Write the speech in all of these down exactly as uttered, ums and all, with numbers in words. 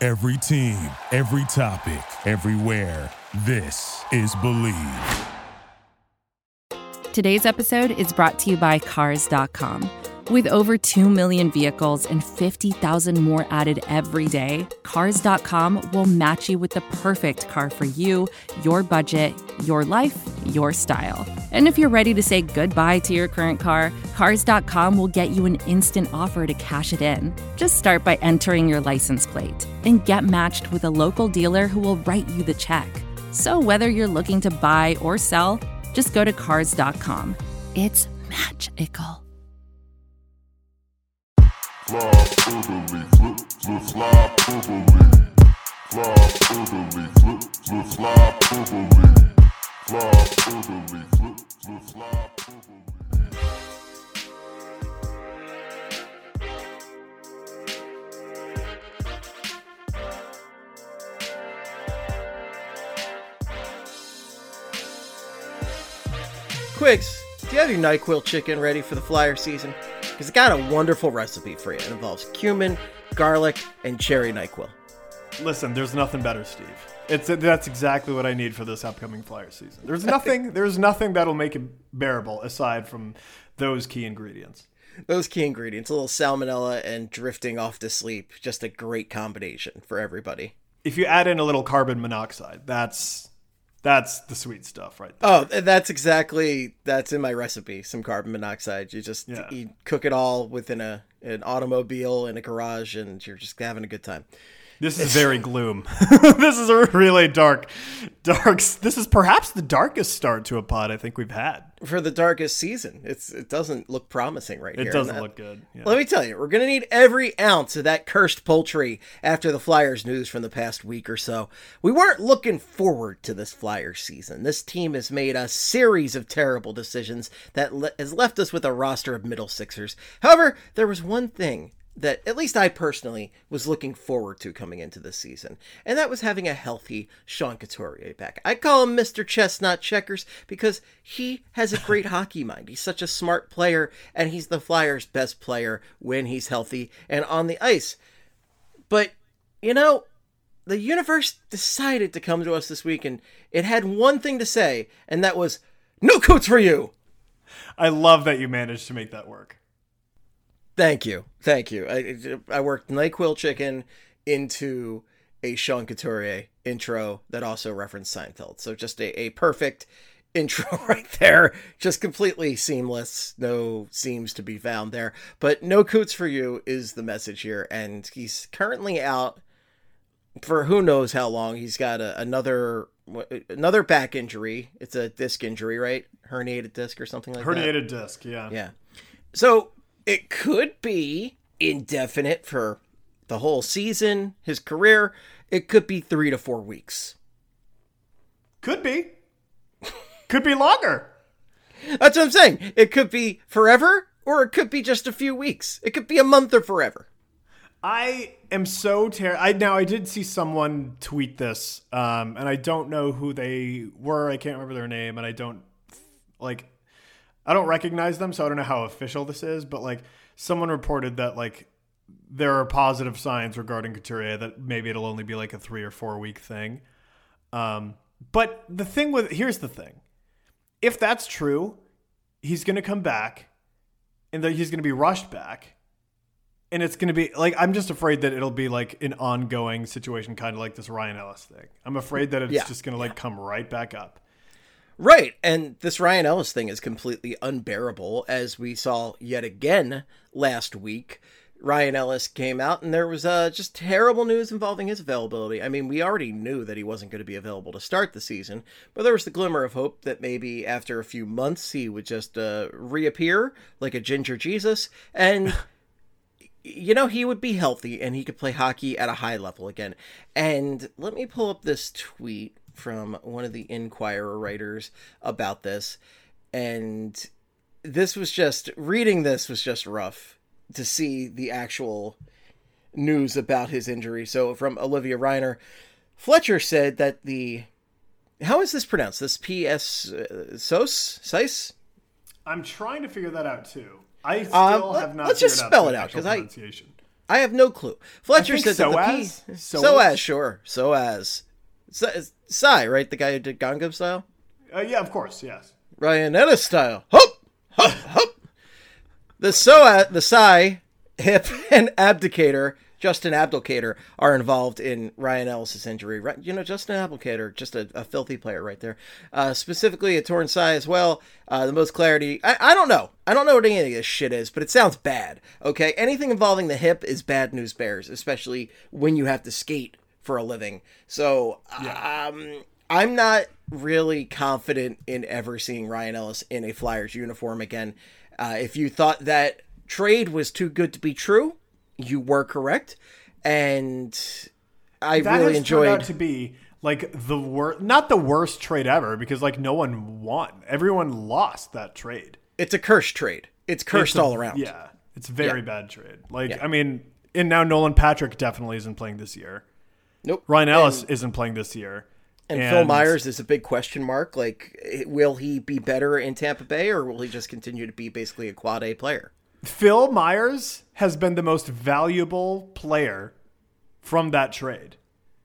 Every team, every topic, everywhere. This is Believe. Today's episode is brought to you by Cars dot com. With over two million vehicles and fifty thousand more added every day, Cars dot com will match you with the perfect car for you, your budget, your life, your style. And if you're ready to say goodbye to your current car, Cars dot com will get you an instant offer to cash it in. Just start by entering your license plate and get matched with a local dealer who will write you the check. So whether you're looking to buy or sell, just go to Cars dot com. It's magical. Fly orderly, flip, flip, fly orderly. Fly orderly, flip, flip, fly orderly. Fly orderly, flip, flip, fly orderly. Quigs, do you have your NyQuil chicken ready for the flyer season? Because it's got a wonderful recipe for you. It involves cumin, garlic, and cherry NyQuil. Listen, there's nothing better, Steve. It's that's exactly what I need for this upcoming flyer season. There's nothing there's nothing that'll make it bearable aside from those key ingredients. Those key ingredients, a little salmonella and drifting off to sleep. Just a great combination for everybody. If you add in a little carbon monoxide, that's that's the sweet stuff right there. Oh, that's exactly, that's in my recipe, some carbon monoxide. You just Yeah. you cook it all within a an automobile in a garage, and you're just having a good time. This is very gloom. This is a really dark, dark. This is perhaps the darkest start to a pod I think we've had. For the darkest season, it's it doesn't look promising right It here. doesn't That- look good. Yeah. Let me tell you, we're going to need every ounce of that cursed poultry after the Flyers news from the past week or so. We weren't looking forward to this Flyers season. This team has made a series of terrible decisions that le- has left us with a roster of middle sixers. However, there was one thing that at least I personally was looking forward to coming into this season, and that was having a healthy Sean Couturier back. I call him Mister Chestnut Checkers because he has a great hockey mind. He's such a smart player, and he's the Flyers' best player when he's healthy and on the ice. But, you know, the universe decided to come to us this week, and it had one thing to say, and that was, no Coots for you! I love that you managed to make that work. Thank you. Thank you. I, I worked NyQuil chicken into a Sean Couturier intro that also referenced Seinfeld. So just a, a perfect intro right there. Just completely seamless. No seams to be found there. But no Coots for you is the message here. And he's currently out for who knows how long. He's got a, another another back injury. It's a disc injury, right? Herniated disc or something like Herniated that. disc, yeah. Yeah. So it could be indefinite for the whole season, his career. It could be three to four weeks. Could be. Could be longer. That's what I'm saying. It could be forever, or it could be just a few weeks. It could be a month or forever. I am so ter- I now I did see someone tweet this, um, and I don't know who they were. I can't remember their name, and I don't like. I don't recognize them, so I don't know how official this is. But like, someone reported that like there are positive signs regarding Couturier that maybe it'll only be like a three or four week thing. Um, but the thing with here's the thing: if that's true, he's going to come back, and that he's going to be rushed back. And it's going to be like, I'm just afraid that it'll be like an ongoing situation, kind of like this Ryan Ellis thing. I'm afraid that it's Yeah. just going to like come right back up. Right. And this Ryan Ellis thing is completely unbearable, as we saw yet again last week. Ryan Ellis came out and there was uh, just terrible news involving his availability. I mean, we already knew that he wasn't going to be available to start the season, but there was the glimmer of hope that maybe after a few months he would just uh, reappear like a ginger Jesus and... you know, he would be healthy and he could play hockey at a high level again. And let me pull up this tweet from one of the Inquirer writers about this. And this was just, reading this was just rough to see the actual news about his injury. So from Olivia Reiner, Fletcher said that the, how is this pronounced? This P S uh, S O S? S I S? I'm trying to figure that out too. I still Um, have not let's figured just out spell the it out, actual 'cause I- pronunciation. I have no clue. Fletcher I think said so that the as? P... So So as? as, sure. So as. Psy, right? The guy who did Gangnam Style? Uh, yeah, of course, yes. Ryan Ellis style. Hop! Hop! Hop! The Soa, the Psy, Hip, and Abdicator, Justin Abdicator, are involved in Ryan Ellis' injury. Right? You know, Justin Abdicator, just a, a filthy player right there. Uh, specifically a torn Psy as well. Uh, the most clarity. I, I don't know. I don't know what any of this shit is, but it sounds bad. Okay? Anything involving the hip is bad news bears, especially when you have to skate for a living. So, Yeah. um, I'm not really confident in ever seeing Ryan Ellis in a Flyers uniform again. Uh, if you thought that trade was too good to be true, you were correct. And I That really has enjoyed... turned out to be like the worst, not the worst trade ever, because like no one won. Everyone lost that trade. It's a cursed trade. It's cursed It's a- all around. Yeah, it's a very Yeah. bad trade. Like, Yeah. I mean, and now Nolan Patrick definitely isn't playing this year. Nope. Ryan Ellis And, isn't playing this year. and Phil Myers is a big question mark. Like, will he be better in Tampa Bay, or will he just continue to be basically a quad A player? Phil Myers has been the most valuable player from that trade.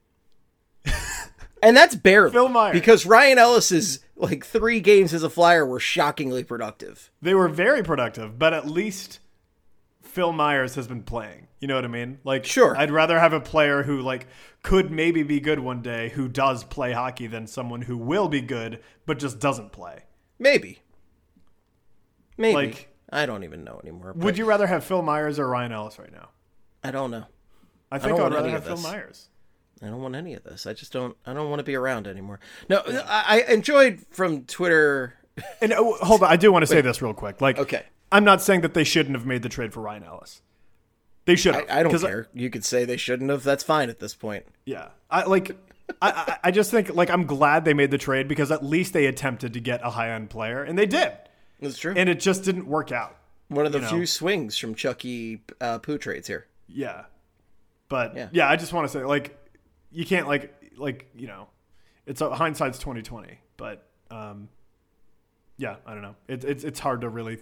And that's barely. Phil Myers. Because Ryan Ellis's, like, three games as a Flyer were shockingly productive. They were very productive, but at least Phil Myers has been playing. You know what I mean? Like, Sure. I'd rather have a player who like could maybe be good one day who does play hockey than someone who will be good but just doesn't play. Maybe. Maybe. Like- I don't even know anymore. but Would you rather have Phil Myers or Ryan Ellis right now? I don't know. I think don't I want would rather any have of Phil this. Myers. I don't want any of this. I just don't. I don't want to be around anymore. No, I, I enjoyed from Twitter. And oh, hold on, I do want to say this real quick. Like, Okay. I'm not saying that they shouldn't have made the trade for Ryan Ellis. They should have. I, I don't 'cause care. You could say they shouldn't have. That's fine at this point. Yeah, I like. I, I I just think like I'm glad they made the trade because at least they attempted to get a high end player and they did, That's true. and it just didn't work out. One of the you know. few swings from Chucky uh, Poo trades here. Yeah, but Yeah. yeah, I just want to say like you can't like like you know, it's a, hindsight's twenty twenty, but um, yeah, I don't know. It's it's it's hard to really.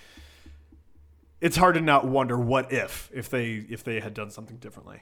It's hard to not wonder what if if they if they had done something differently.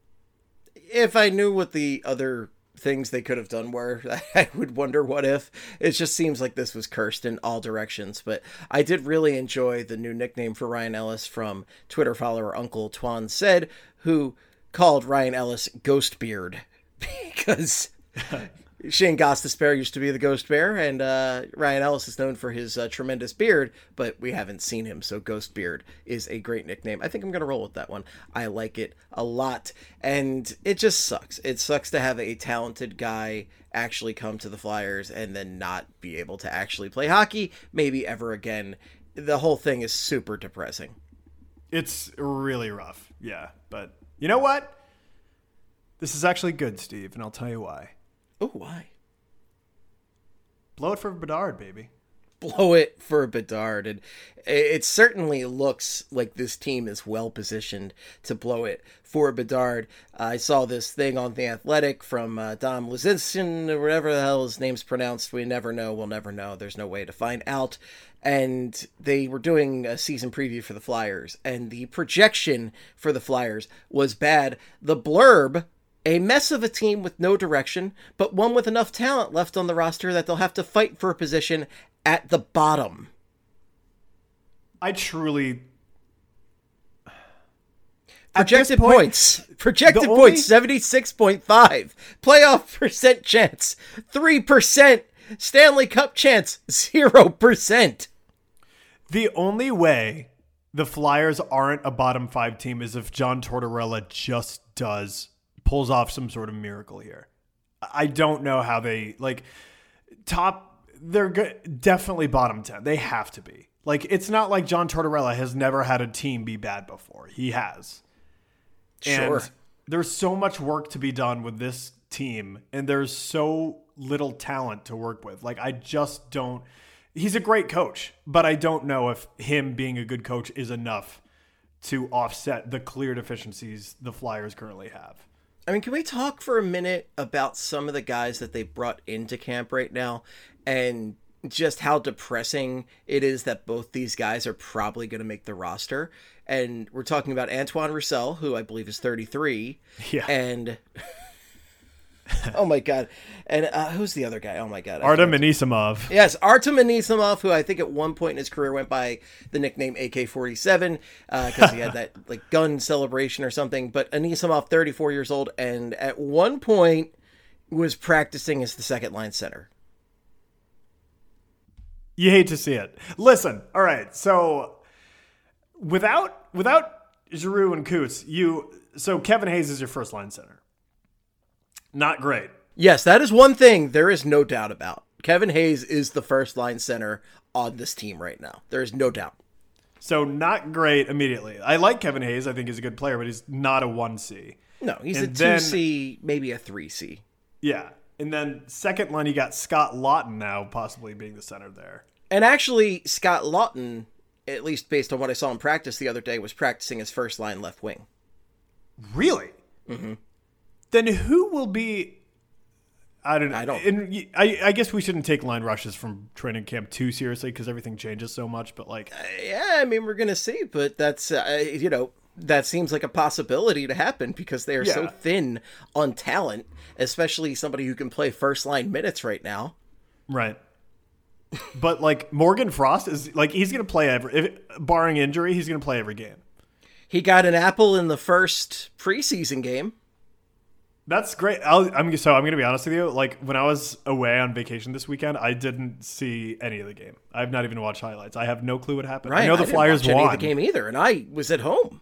If I knew what the other things they could have done were, I would wonder what if. It just seems like this was cursed in all directions. But I did really enjoy the new nickname for Ryan Ellis from Twitter follower Uncle Twan Said, who called Ryan Ellis Ghost Beard because Shane Gostisbehere used to be the Ghost Bear, and uh, Ryan Ellis is known for his uh, tremendous beard, but we haven't seen him, so Ghost Beard is a great nickname. I think I'm going to roll with that one. I like it a lot, and it just sucks. It sucks to have a talented guy actually come to the Flyers and then not be able to actually play hockey, maybe ever again. The whole thing is super depressing. It's really rough, yeah. But you know what? This is actually good, Steve, and I'll tell you why. Oh, why? Blow it for Bedard, baby. Blow it for Bedard. And it certainly looks like this team is well positioned to blow it for Bedard. Uh, I saw this thing on The Athletic from uh, Dom Luzinski, or whatever the hell his name's pronounced. We never know. We'll never know. There's no way to find out. And they were doing a season preview for the Flyers, and the projection for the Flyers was bad. The blurb: a mess of a team with no direction, but one with enough talent left on the roster that they'll have to fight for a position at the bottom. I truly... Projected point, points. Projected the only- points, seventy-six point five. Playoff percent chance, three percent. Stanley Cup chance, zero percent. The only way the Flyers aren't a bottom five team is if John Tortorella just does, pulls off some sort of miracle here. I don't know how they, like, top, they're good, definitely bottom ten. They have to be. Like, it's not like John Tortorella has never had a team be bad before. He has. Sure. And there's so much work to be done with this team, and there's so little talent to work with. Like, I just don't... He's a great coach, but I don't know if him being a good coach is enough to offset the clear deficiencies the Flyers currently have. I mean, can we talk for a minute about some of the guys that they brought into camp right now and just how depressing it is that both these guys are probably going to make the roster. And we're talking about Antoine Roussel, who I believe is thirty-three. Yeah. And oh my God. And uh, who's the other guy? Oh my God. I Artem can't- Anisimov. Yes, Artem Anisimov, who I think at one point in his career went by the nickname A K forty-seven because uh, he had that like gun celebration or something. But Anisimov, thirty-four years old, and at one point was practicing as the second line center. You hate to see it. Listen, all right. So without without Giroux and Coots, you so Kevin Hayes is your first line center. Not great. Yes, that is one thing there is no doubt about. Kevin Hayes is the first line center on this team right now. There is no doubt. So not great immediately. I like Kevin Hayes. I think he's a good player, but he's not a one C. No, he's And a then- two C, maybe a three C. Yeah. And then second line, you got Scott Lawton now possibly being the center there. And actually, Scott Lawton, at least based on what I saw in practice the other day, was practicing as first line left wing. Really? Mm-hmm. Then who will be? I don't know. I don't- And y- I, I guess we shouldn't take line rushes from training camp too seriously because everything changes so much. But like, Yeah, I mean, we're going to see, but that's, uh, you know, that seems like a possibility to happen because they are so Yeah. thin on talent, especially somebody who can play first line minutes right now. right. But like Morgan Frost is like he's gonna play every, if, barring injury, he's gonna play every game. He got an apple in the first preseason game. That's great. I'll, I'm so I'm gonna be honest with you. Like when I was away on vacation this weekend, I didn't see any of the game. I've not even watched highlights. I have no clue what happened. Right. I know the didn't Flyers watch any won. of the game either, and I was at home.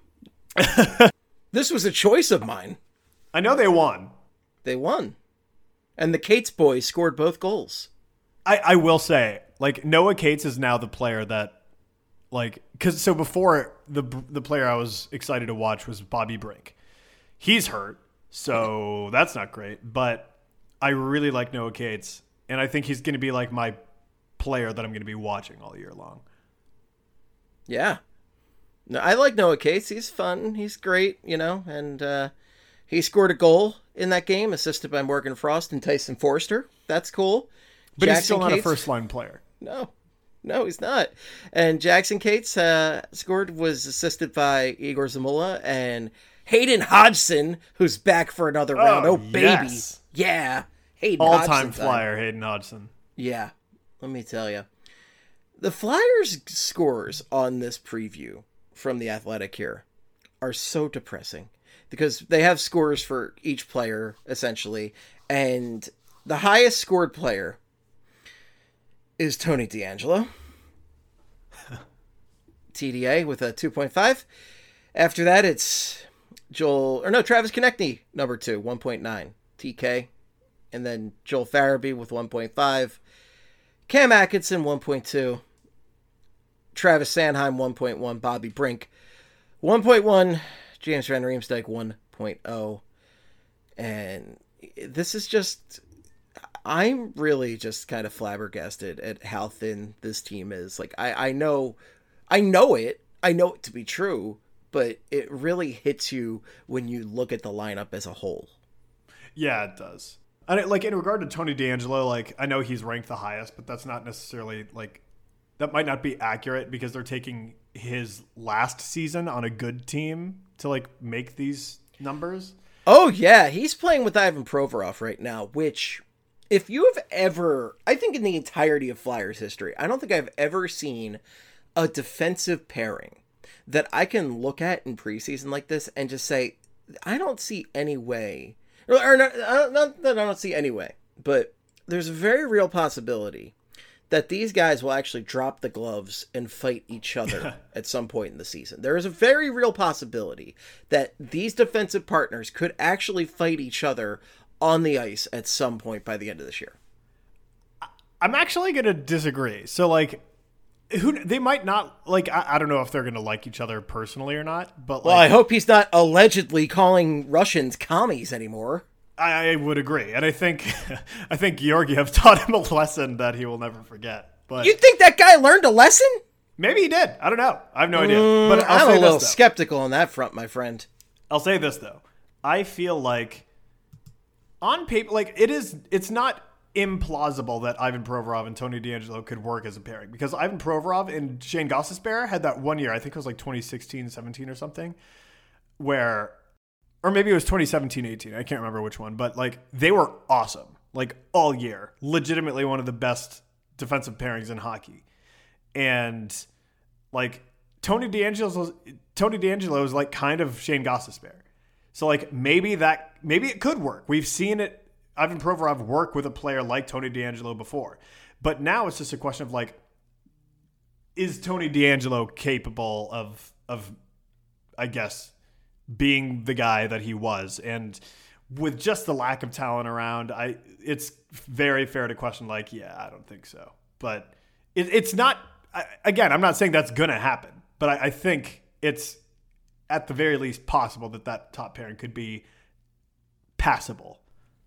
This was a choice of mine. I know they won. They won. And the Cates boys scored both goals. I, I will say, like Noah Cates is now the player that, like, because so before the the player I was excited to watch was Bobby Brink. He's hurt, so that's not great. But I really like Noah Cates, and I think he's going to be like my player that I'm going to be watching all year long. Yeah. No, I like Noah Cates. He's fun. He's great, you know, and uh, he scored a goal in that game, assisted by Morgan Frost and Tyson Forster. That's cool. But he's Jackson still not Cates- a first line player. No, no, he's not. And Jackson Cates uh, scored, was assisted by Igor Zamula and Hayden Hodgson, who's back for another round. Oh, baby. yes. Yeah. Hayden All Hodgson time flyer Hayden Hodgson. Yeah. Let me tell you. The Flyers scores on this preview from The Athletic here are so depressing because they have scores for each player, essentially. And the highest scored player is Tony DeAngelo. T D A with a two point five. After that, it's Joel, or no, Travis Konechny, number two, one point nine. T K. And then Joel Farabee with one point five. Cam Atkinson, one point two. Travis Sanheim, one point one. Bobby Brink, one point one. James Van Riemsdyk, one point oh. And this is just... I'm really just kind of flabbergasted at how thin this team is. Like, I, I know, I know it. I know it to be true, but it really hits you when you look at the lineup as a whole. Yeah, it does. And it, like in regard to Tony DeAngelo, like I know he's ranked the highest, but that's not necessarily like that might not be accurate because they're taking his last season on a good team to like make these numbers. Oh yeah, he's playing with Ivan Provorov right now, which if you have ever, I think in the entirety of Flyers history, I don't think I've ever seen a defensive pairing that I can look at in preseason like this and just say, I don't see any way, or, or not, not that I don't see any way, but there's a very real possibility that these guys will actually drop the gloves and fight each other at some point in the season. There is a very real possibility that these defensive partners could actually fight each other on the ice at some point by the end of this year. I'm actually going to disagree. So like who they might not like, I, I don't know if they're going to like each other personally or not, but like, Well, I hope he's not allegedly calling Russians commies anymore. I, I would agree. And I think, I think Georgiev taught him a lesson that he will never forget, but You think that guy learned a lesson? maybe he did. I don't know. I have no idea, Mm, but I'll I'm say a little this, though. skeptical on that front, my friend. I'll say this though. I feel like on paper, like it is, it's not implausible that Ivan Provorov and Tony DeAngelo could work as a pairing, because Ivan Provorov and Shane Gostisbehere had that one year, I think it was like twenty sixteen, seventeen or something, where, or maybe it was twenty seventeen, eighteen. I can't remember which one, but like they were awesome, like all year, legitimately one of the best defensive pairings in hockey. And like Tony DeAngelo, Tony DeAngelo is like kind of Shane Gostisbehere. So like maybe that, maybe it could work. We've seen it, Ivan Provorov work with a player like Tony DeAngelo before. But now it's just a question of like, is Tony DeAngelo capable of, of, I guess, being the guy that he was? And with just the lack of talent around, I it's very fair to question like, yeah, I don't think so. But it, it's not, I, again, I'm not saying that's going to happen, but I, I think it's at the very least possible that that top pairing could be passable.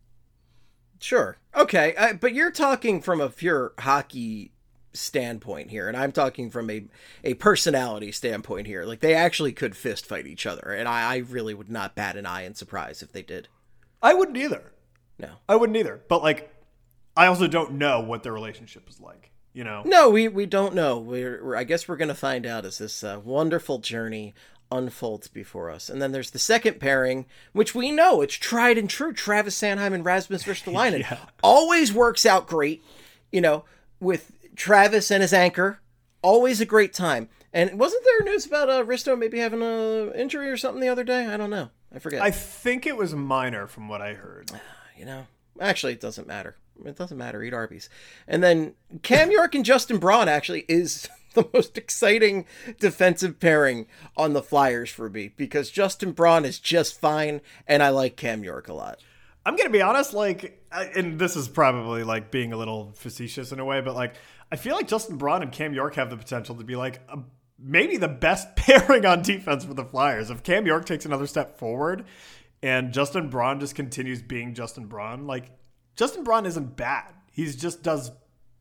Sure. Okay. Uh, but you're talking from a pure hockey standpoint here, and I'm talking from a, a personality standpoint here. Like, they actually could fist fight each other, and I, I really would not bat an eye in surprise if they did. I wouldn't either. No. I wouldn't either. But, like, I also don't know what their relationship is like, you know? No, we, we don't know. We're, we're I guess we're going to find out as this uh, wonderful journey unfolds before us. And then there's the second pairing, which we know it's tried and true. Travis Sanheim and Rasmus Ristolainen. Yeah. Always works out great, you know, with Travis and his anchor. Always a great time. And wasn't there news about uh, Risto maybe having an injury or something the other day? I don't know. I forget. I think it was minor from what I heard. You know, actually, it doesn't matter. It doesn't matter. Eat Arby's. And then Cam York and Justin Braun actually is the most exciting defensive pairing on the Flyers for me, because Justin Braun is just fine, and I like Cam York a lot. I'm going to be honest, like, and this is probably like being a little facetious in a way, but like, I feel like Justin Braun and Cam York have the potential to be like a, maybe the best pairing on defense for the Flyers. If Cam York takes another step forward and Justin Braun just continues being Justin Braun, like, Justin Braun isn't bad. He's just does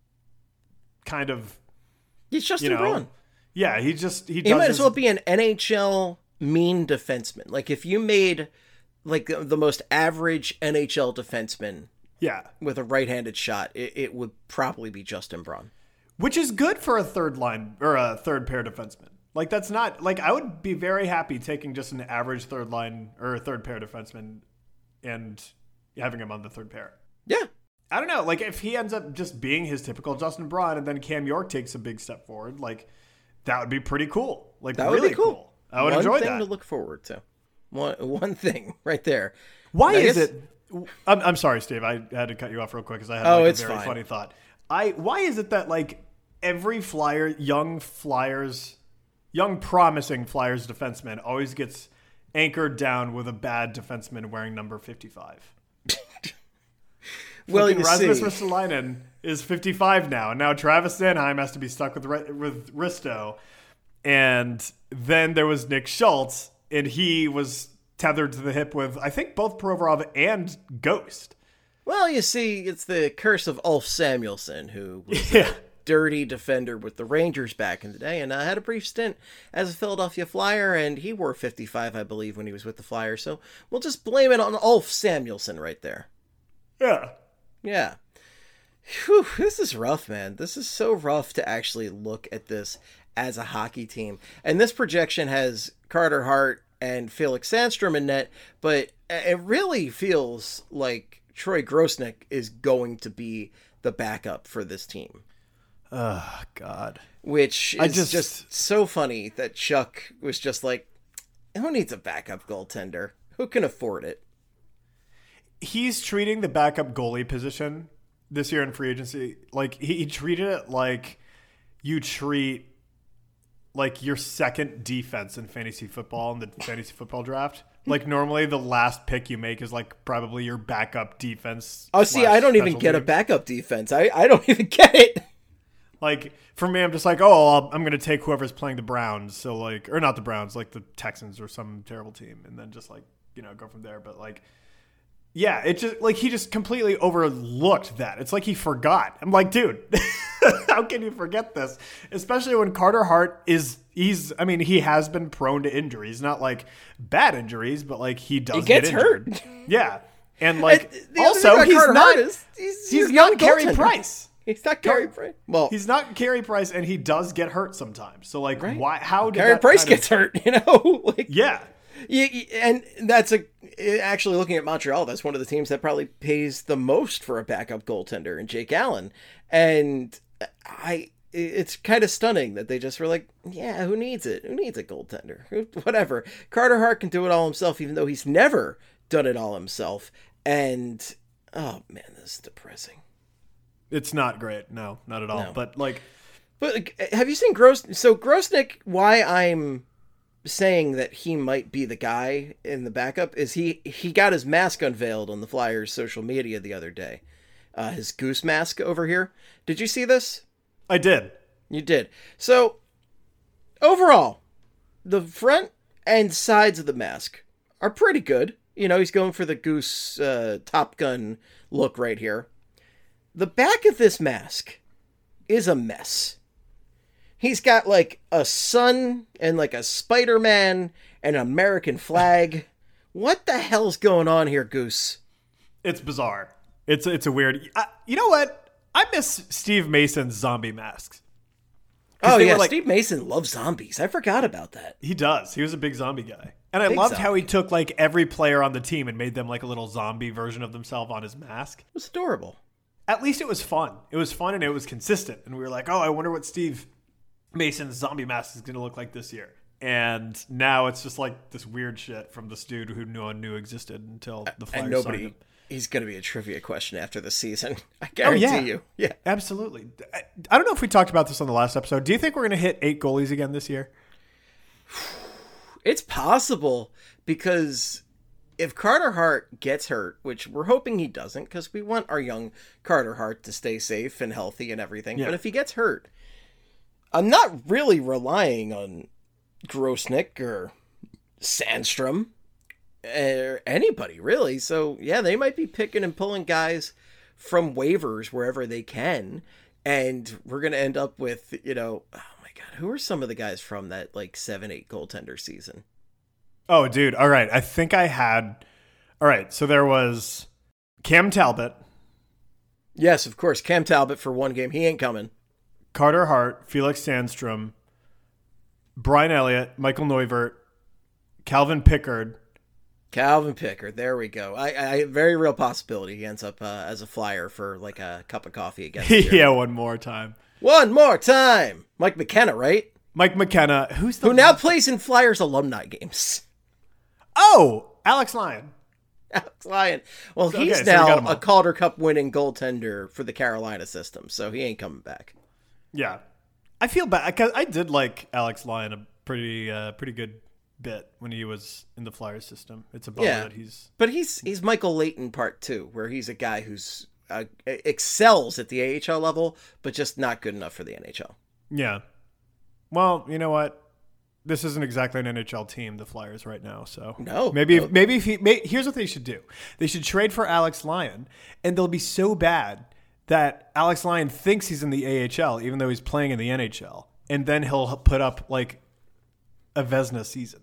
kind of, He's Justin you know, Braun. Yeah, he just he, He does might his, as well be an N H L mean defenseman. Like, if you made like the most average N H L defenseman yeah, with a right-handed shot, it, it would probably be Justin Braun. which is good for a third line or a third pair defenseman. Like, that's not like, I would be very happy taking just an average third line or a third pair defenseman and having him on the third pair. Yeah. I don't know. Like, if he ends up just being his typical Justin Braun and then Cam York takes a big step forward, like, that would be pretty cool. Like, That really would be cool. cool. I would One enjoy thing that. to look forward to. One one thing right there. Why I is guess- it? I'm, I'm sorry, Steve. I had to cut you off real quick because I had Oh, like, it's a very fine. funny thought. I why is it that like every Flyer, young Flyers, young promising Flyers defenseman always gets anchored down with a bad defenseman wearing number fifty-five? Well, Fucking you Rasmus see. Ristolainen is fifty-five now, and now Travis Sanheim has to be stuck with Ri- with Risto, and then there was Nick Schultz, and he was tethered to the hip with I think both Provorov and Ghost. Well, you see, it's the curse of Ulf Samuelsson, who was Yeah. a dirty defender with the Rangers back in the day, and uh, had a brief stint as a Philadelphia Flyer, and he wore fifty-five, I believe, when he was with the Flyers. So we'll just blame it on Ulf Samuelsson right there. Yeah. Yeah. Whew, this is rough, man. This is so rough to actually look at this as a hockey team. And this projection has Carter Hart and Felix Sandstrom in net, but it really feels like Troy Grosnick is going to be the backup for this team. Oh, God. Which is I just, just- so funny that Chuck was just like, who needs a backup goaltender? Who can afford it? He's treating the backup goalie position this year in free agency like he, he treated it like you treat like your second defense in fantasy football in the fantasy football draft. Like, normally the last pick you make is like probably your backup defense. Oh, see, slash I don't even special get a teams. backup defense. I, I don't even get it. Like, for me, I'm just like, oh, I'll, I'm going to take whoever's playing the Browns. So, like, or not the Browns, like the Texans or some terrible team. And then just, like, you know, go from there. But, like, yeah, it just, like, he just completely overlooked that. It's like he forgot. I'm like, dude, how can you forget this? Especially when Carter Hart is, he's, I mean, he has been prone to injuries. Not, like, bad injuries, but, like, he does He gets get injured. hurt. Yeah. And like, And the other also, thing about he's Carter not, Hart is he's, he's not not Carey goaltender. Price. He's not Carey Price. Well, He's not Carey Price, and he does get hurt sometimes. So like, Right. why? How did Carey that Price kind of- gets hurt, you know? like, Yeah, you, you- and that's a actually looking at Montreal. That's one of the teams that probably pays the most for a backup goaltender, and Jake Allen. And I, it's kind of stunning that they just were like, yeah, who needs it? Who needs a goaltender? Who- Whatever. Carter Hart can do it all himself, even though he's never done it all himself. And oh man, this is depressing. it's not great. No, not at all. No. But like, But like, have you seen Gross? So Grosnick, why I'm saying that he might be the guy in the backup is he he got his mask unveiled on the Flyers' social media the other day. Uh, his goose mask over here. Did you see this? I did. You did. So overall, the front and sides of the mask are pretty good. You know, he's going for the goose uh, Top Gun look right here. The back of this mask is a mess. He's got like a sun and like a Spider-Man and an American flag. What the hell's going on here, Goose? It's bizarre. It's it's a weird. I, you know what? I miss Steve Mason's zombie masks. Oh they yeah, were like- Steve Mason loves zombies. I forgot about that. He does. He was a big zombie guy. And I Big loved how zombie. he took like every player on the team and made them like a little zombie version of themselves on his mask. It was adorable. At least it was fun. It was fun and it was consistent. And we were like, oh, I wonder what Steve Mason's zombie mask is going to look like this year. And now it's just like this weird shit from this dude who no one knew existed until the Flyers And signed nobody, him. he's going to be a trivia question after the season. I Oh, guarantee yeah. you. Yeah. Absolutely. I, I don't know if we talked about this on the last episode. Do you think we're going to hit eight goalies again this year? It's possible because if Carter Hart gets hurt, which we're hoping he doesn't because we want our young Carter Hart to stay safe and healthy and everything. Yeah. But if he gets hurt, I'm not really relying on Grosnick or Sandstrom or anybody really. So yeah, they might be picking and pulling guys from waivers wherever they can. And we're going to end up with, you know, oh my God, who are some of the guys from that like seven, eight goaltender season? Oh, dude. All right. I think I had. All right. So there was Cam Talbot, Yes, of course. Cam Talbot for one game. He ain't coming. Carter Hart, Felix Sandstrom, Brian Elliott, Michael Neuvert, Calvin Pickard. Calvin Pickard. There we go. I, I very real possibility he ends up uh, as a Flyer for like a cup of coffee again. this year. Yeah, one more time. One more time. Mike McKenna, right? Mike McKenna, who's the Who now plays in Flyers alumni games. Oh, Alex Lyon. Alex Lyon. Well, So, he's okay, so we got now him all. a Calder Cup winning goaltender for the Carolina system, so he ain't coming back. Yeah, I feel bad because I did like Alex Lyon a pretty, uh, pretty good bit when he was in the Flyers system. It's a bummer Yeah. that he's. But he's he's Michael Leighton part two, where he's a guy who's uh, excels at the A H L level, but just not good enough for the N H L. Yeah. Well, you know what? This isn't exactly an N H L team, the Flyers, right now. So No, maybe, no. If, maybe if he, may, here's what they should do: they should trade for Alex Lyon, and they'll be so bad that Alex Lyon thinks he's in the A H L, even though he's playing in the N H L, and then he'll put up like a Vezina season.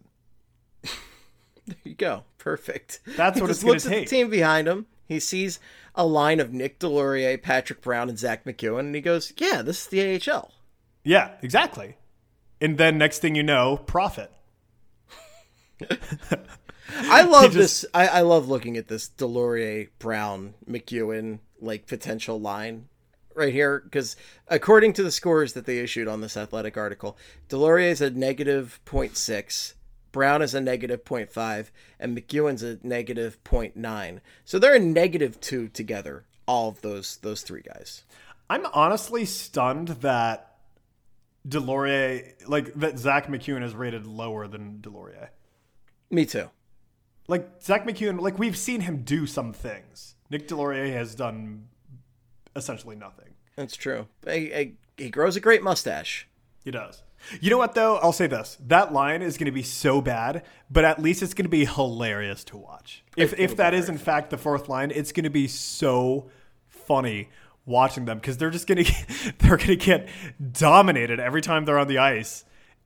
There you go. Perfect. That's He what just it's gonna looks at take. the team behind him. He sees a line of Nick Delorier, Patrick Brown, and Zach McEwen, and he goes, "Yeah, this is the A H L." Yeah, exactly. And then next thing you know, profit. I love just- this. I, I love looking at this Delorier, Brown, McEwen like potential line right here because according to the scores that they issued on this Athletic article, Delorier is a negative zero point six, Brown is a negative zero point five, and McEwen's a negative zero point nine. So they're a negative two together. All of those those three guys. I'm honestly stunned that Delorier, like that Zach McEwen is rated lower than Delorier. Me too. Like Zach McEwen, like we've seen him do some things. Nick Delorier has done essentially nothing. That's true. He, he, he grows a great mustache. He does. You know what though? I'll say this: that line is going to be so bad, but at least it's going to be hilarious to watch. If It'll if that be is in fact the fourth line, it's going to be so funny watching them because they're just going to they're going to get dominated every time they're on the ice,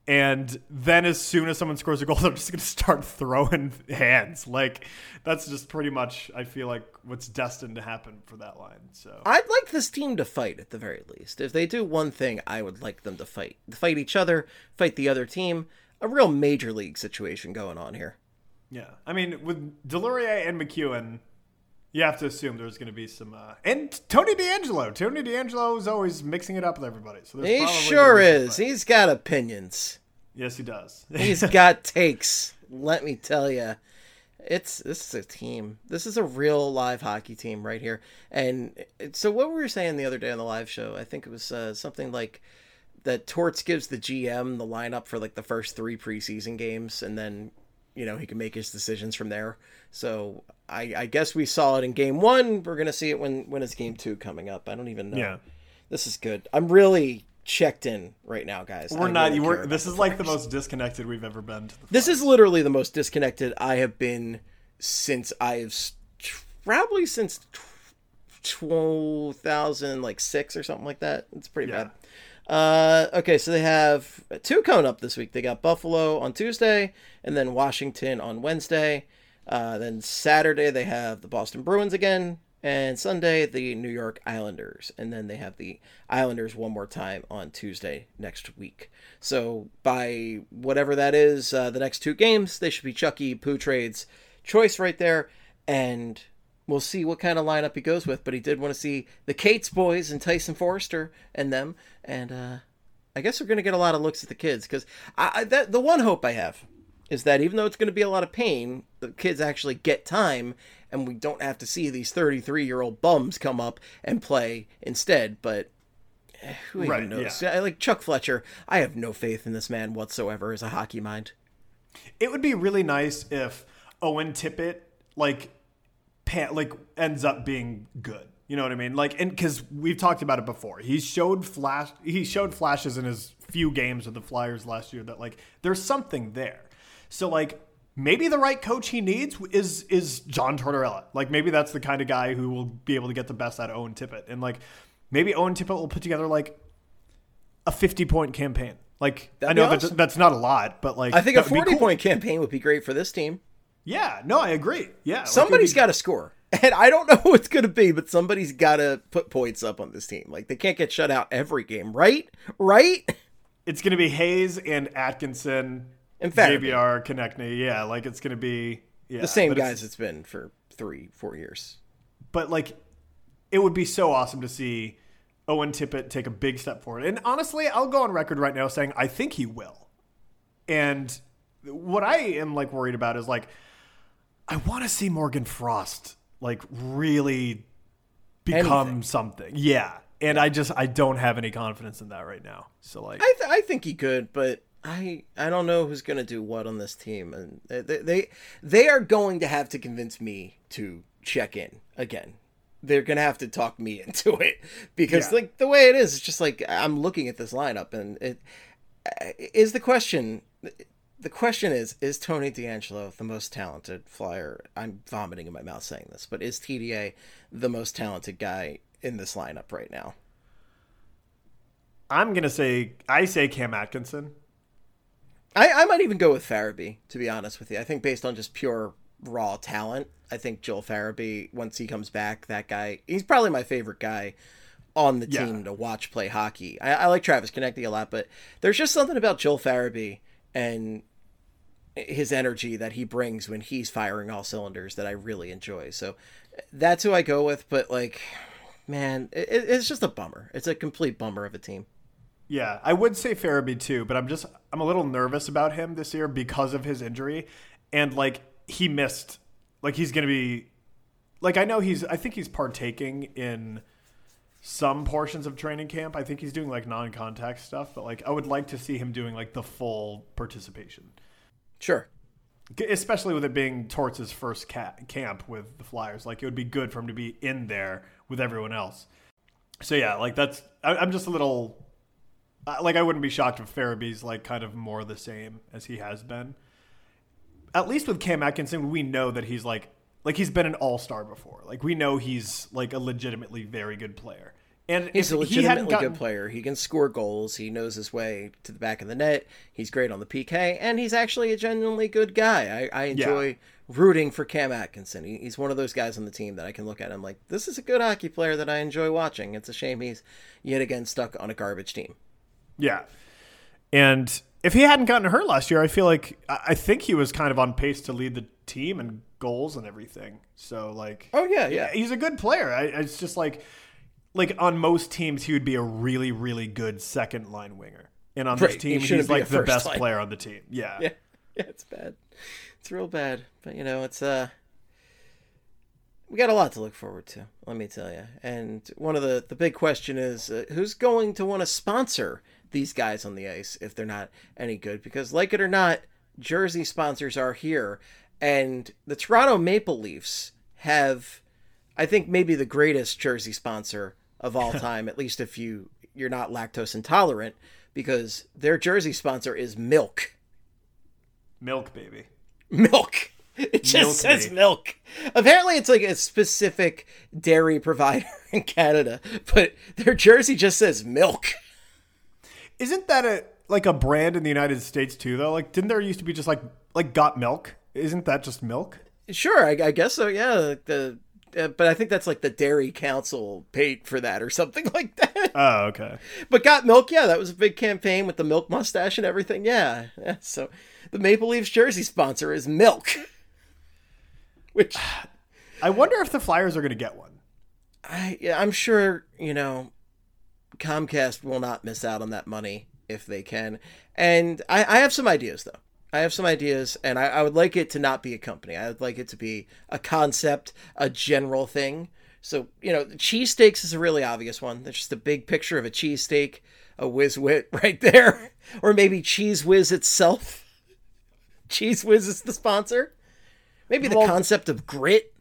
And then as soon as someone scores a goal, they're just going to start throwing hands. Like, that's just pretty much, I feel like, what's destined to happen for that line. So I'd like this team to fight at the very least. If they do one thing, I would like them to fight. Fight each other, fight the other team. A real major league situation going on here. Yeah. I mean, with Delorier and McEwen, you have to assume there's going to be some... Uh, and Tony DeAngelo. Tony DeAngelo is always mixing it up with everybody. So there's he probably sure gonna be some is. fight. He's got opinions. Yes, he does. He's got takes. Let me tell you. It's This is a team. This is a real live hockey team right here. And so what we were saying the other day on the live show, I think it was uh, something like that Torts gives the G M the lineup for like the first three preseason games, and then, you know, he can make his decisions from there. So I, I guess we saw it in game one. We're going to see it when, when it's game two coming up. I don't even know. Yeah. This is good. I'm really checked in right now, guys. We're I not... really We're, care this about is like the Flyers. most disconnected we've ever been to the This Flyers. is literally the most disconnected I have been since I've probably since two thousand like six or something like that. It's pretty Yeah. bad. Uh, okay, so they have two coming up this week. They got Buffalo on Tuesday and then Washington on Wednesday. Uh, then Saturday they have the Boston Bruins again, and Sunday the New York Islanders, and then they have the Islanders one more time on Tuesday next week. So by whatever that is, uh, the next two games, they should be Chucky Poutrade's choice right there, and we'll see what kind of lineup he goes with. But he did want to see the Cates boys and Tyson Forrester and them, and uh, I guess we're going to get a lot of looks at the kids, because I, I, that, the one hope I have is that even though it's going to be a lot of pain, the kids actually get time, and we don't have to see these thirty-three-year-old bums come up and play instead. But eh, who even Right, knows? yeah. I- Like Chuck Fletcher, I have no faith in this man whatsoever as a hockey mind. It would be really nice if Owen Tippett, like, pan, like ends up being good. You know what I mean? Like, and because we've talked about it before, he showed flash. He showed flashes in his few games with the Flyers last year that like there's something there. So like maybe the right coach he needs is is John Tortorella. Like maybe that's the kind of guy who will be able to get the best out of Owen Tippett, and like maybe Owen Tippett will put together like a fifty point campaign. Like That'd I know be awesome. that's that's not a lot, but like I think a that would be forty cool. point campaign would be great for this team. Yeah, no, I agree. Yeah, like, Somebody's it would be- got to score. And I don't know who it's going to be, but somebody's got to put points up on this team. Like, they can't get shut out every game, right? Right? It's going to be Hayes and Atkinson And J Farabee. B R, Konechny. Yeah, like it's going to be yeah, The same but it's- guys it's been for three, four years. But like, it would be so awesome to see Owen Tippett take a big step forward. And honestly, I'll go on record right now saying I think he will. And what I am like worried about is like, I want to see Morgan Frost like really become Anything. something. Yeah. And I just, I don't have any confidence in that right now. So like, I, th- I think he could, but I I don't know who's going to do what on this team. And they, they, they are going to have to convince me to check in again. They're going to have to talk me into it, because Yeah. like the way it is, it's just like I'm looking at this lineup, and it is the question. The question is, is Tony DeAngelo the most talented Flyer? I'm vomiting in my mouth saying this, but is T D A the most talented guy in this lineup right now? I'm going to say, I say Cam Atkinson. I, I might even go with Farabee, to be honest with you. I think based on just pure raw talent, I think Joel Farabee, once he comes back, that guy, he's probably my favorite guy on the Yeah. team to watch play hockey. I, I like Travis Konechny a lot, but there's just something about Joel Farabee and his energy that he brings when he's firing all cylinders that I really enjoy. So that's who I go with, but like, man, it, it's just a bummer. It's a complete bummer of a team. Yeah, I would say Farabee too, but I'm just I'm a little nervous about him this year because of his injury, and like he missed, like he's gonna be, like I know he's I think he's partaking in some portions of training camp. I think he's doing like non-contact stuff, but like I would like to see him doing like the full participation, Sure. especially with it being Torts' first ca- camp with the Flyers. Like it would be good for him to be in there with everyone else. So yeah, like that's I, I'm just a little. Uh, like, I wouldn't be shocked if Farabee's, like, kind of more the same as he has been. At least with Cam Atkinson, we know that he's, like, like he's been an all-star before. Like, we know he's, like, a legitimately very good player. And he's if a he hadn't legitimately gotten, good player. He can score goals. He knows his way to the back of the net. He's great on the P K, and he's actually a genuinely good guy. I, I enjoy Yeah. rooting for Cam Atkinson. He, he's one of those guys on the team that I can look at and I'm like, this is a good hockey player that I enjoy watching. It's a shame he's yet again stuck on a garbage team. Yeah. And if he hadn't gotten hurt last year, I feel like I I think he was kind of on pace to lead the team in goals and everything. So like, Oh, yeah, yeah. he's a good player. I, it's just like, like on most teams, he would be a really, really good second line winger. And on Right, this he team, shouldn't he's be like a the first best line. player on the team. Yeah. Yeah, yeah, it's bad. It's real bad. But, you know, it's, uh, we got a lot to look forward to, let me tell you. And one of the, the big question is, uh, who's going to want to sponsor these guys on the ice if they're not any good? Because, like it or not, jersey sponsors are here. And the Toronto Maple Leafs have, I think, maybe the greatest jersey sponsor of all time, at least if you, you're not lactose intolerant, because their jersey sponsor is milk. Milk, baby. Milk. It just Milk says me. milk. Apparently it's like a specific dairy provider in Canada, but their jersey just says milk. Isn't that a like a brand in the United States too, though? Like, didn't there used to be just like like Got Milk? Isn't that just milk? Sure, I, I guess so, yeah. The uh, But I think that's like the Dairy Council paid for that or something like that. Oh, okay. But Got Milk, yeah, that was a big campaign with the milk mustache and everything, yeah. yeah. So the Maple Leafs jersey sponsor is milk. Which... I wonder if the Flyers are going to get one. I, yeah, I'm sure, you know, Comcast will not miss out on that money if they can. And I, I have some ideas, though. I have some ideas, and I, I would like it to not be a company. I would like it to be a concept, a general thing. So, you know, cheesesteaks is a really obvious one. There's just a big picture of a cheesesteak, a Whiz Wit right there. Or maybe Cheese Whiz itself. Cheese Whiz is the sponsor. Maybe the Well- concept of grit.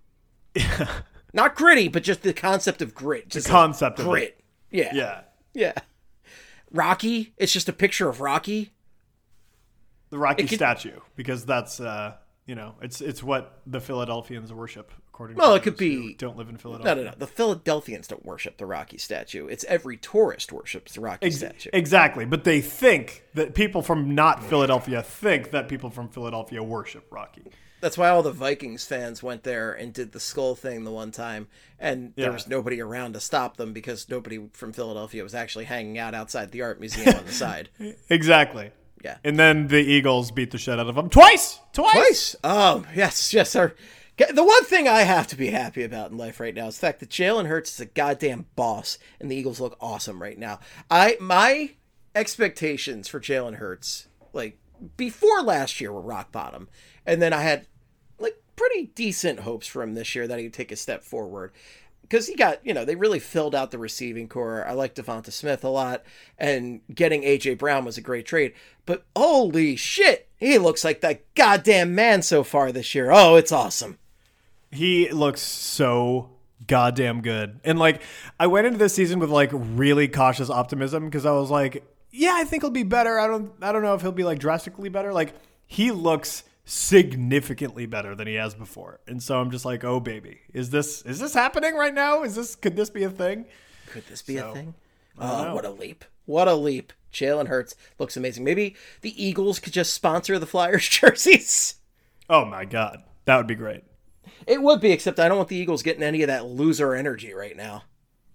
Not gritty, but just the concept of grit. Just The concept like of grit. Yeah. Yeah. Yeah. Rocky. It's just a picture of Rocky. The Rocky It could- statue, because that's uh, you know, it's it's what the Philadelphians worship, according Well, to it could those who be- don't live in No, Philadelphia. no, no. The Philadelphians don't worship the Rocky statue. It's every tourist worships the Rocky Ex- statue. Exactly, but they think that people from not Philadelphia think that people from Philadelphia worship Rocky. That's why all the Vikings fans went there and did the skull thing the one time, and there Yeah. was nobody around to stop them because nobody from Philadelphia was actually hanging out outside the art museum on the side. Exactly. Yeah. And then the Eagles beat the shit out of them twice. Twice. Twice. Oh, yes, yes, sir. The one thing I have to be happy about in life right now is the fact that Jalen Hurts is a goddamn boss, and the Eagles look awesome right now. I my expectations for Jalen Hurts, like before last year, were rock bottom, and then I had like pretty decent hopes for him this year that he'd take a step forward. Because he got, you know, they really filled out the receiving core. I like Devonta Smith a lot, and getting A J Brown was a great trade. But holy shit, he looks like that goddamn man so far this year. Oh, it's awesome. He looks so goddamn good. And like, I went into this season with like really cautious optimism because I was like, yeah, I think he'll be better. I don't, I don't know if he'll be like drastically better. Like, he looks significantly better than he has before. And so I'm just like, oh baby, is this, is this happening right now? Is this, could this be a thing? Could this be So, a thing? I don't Oh, know. what a leap. What a leap. Jalen Hurts looks amazing. Maybe the Eagles could just sponsor the Flyers jerseys. Oh my God. That would be great. It would be, except I don't want the Eagles getting any of that loser energy right now.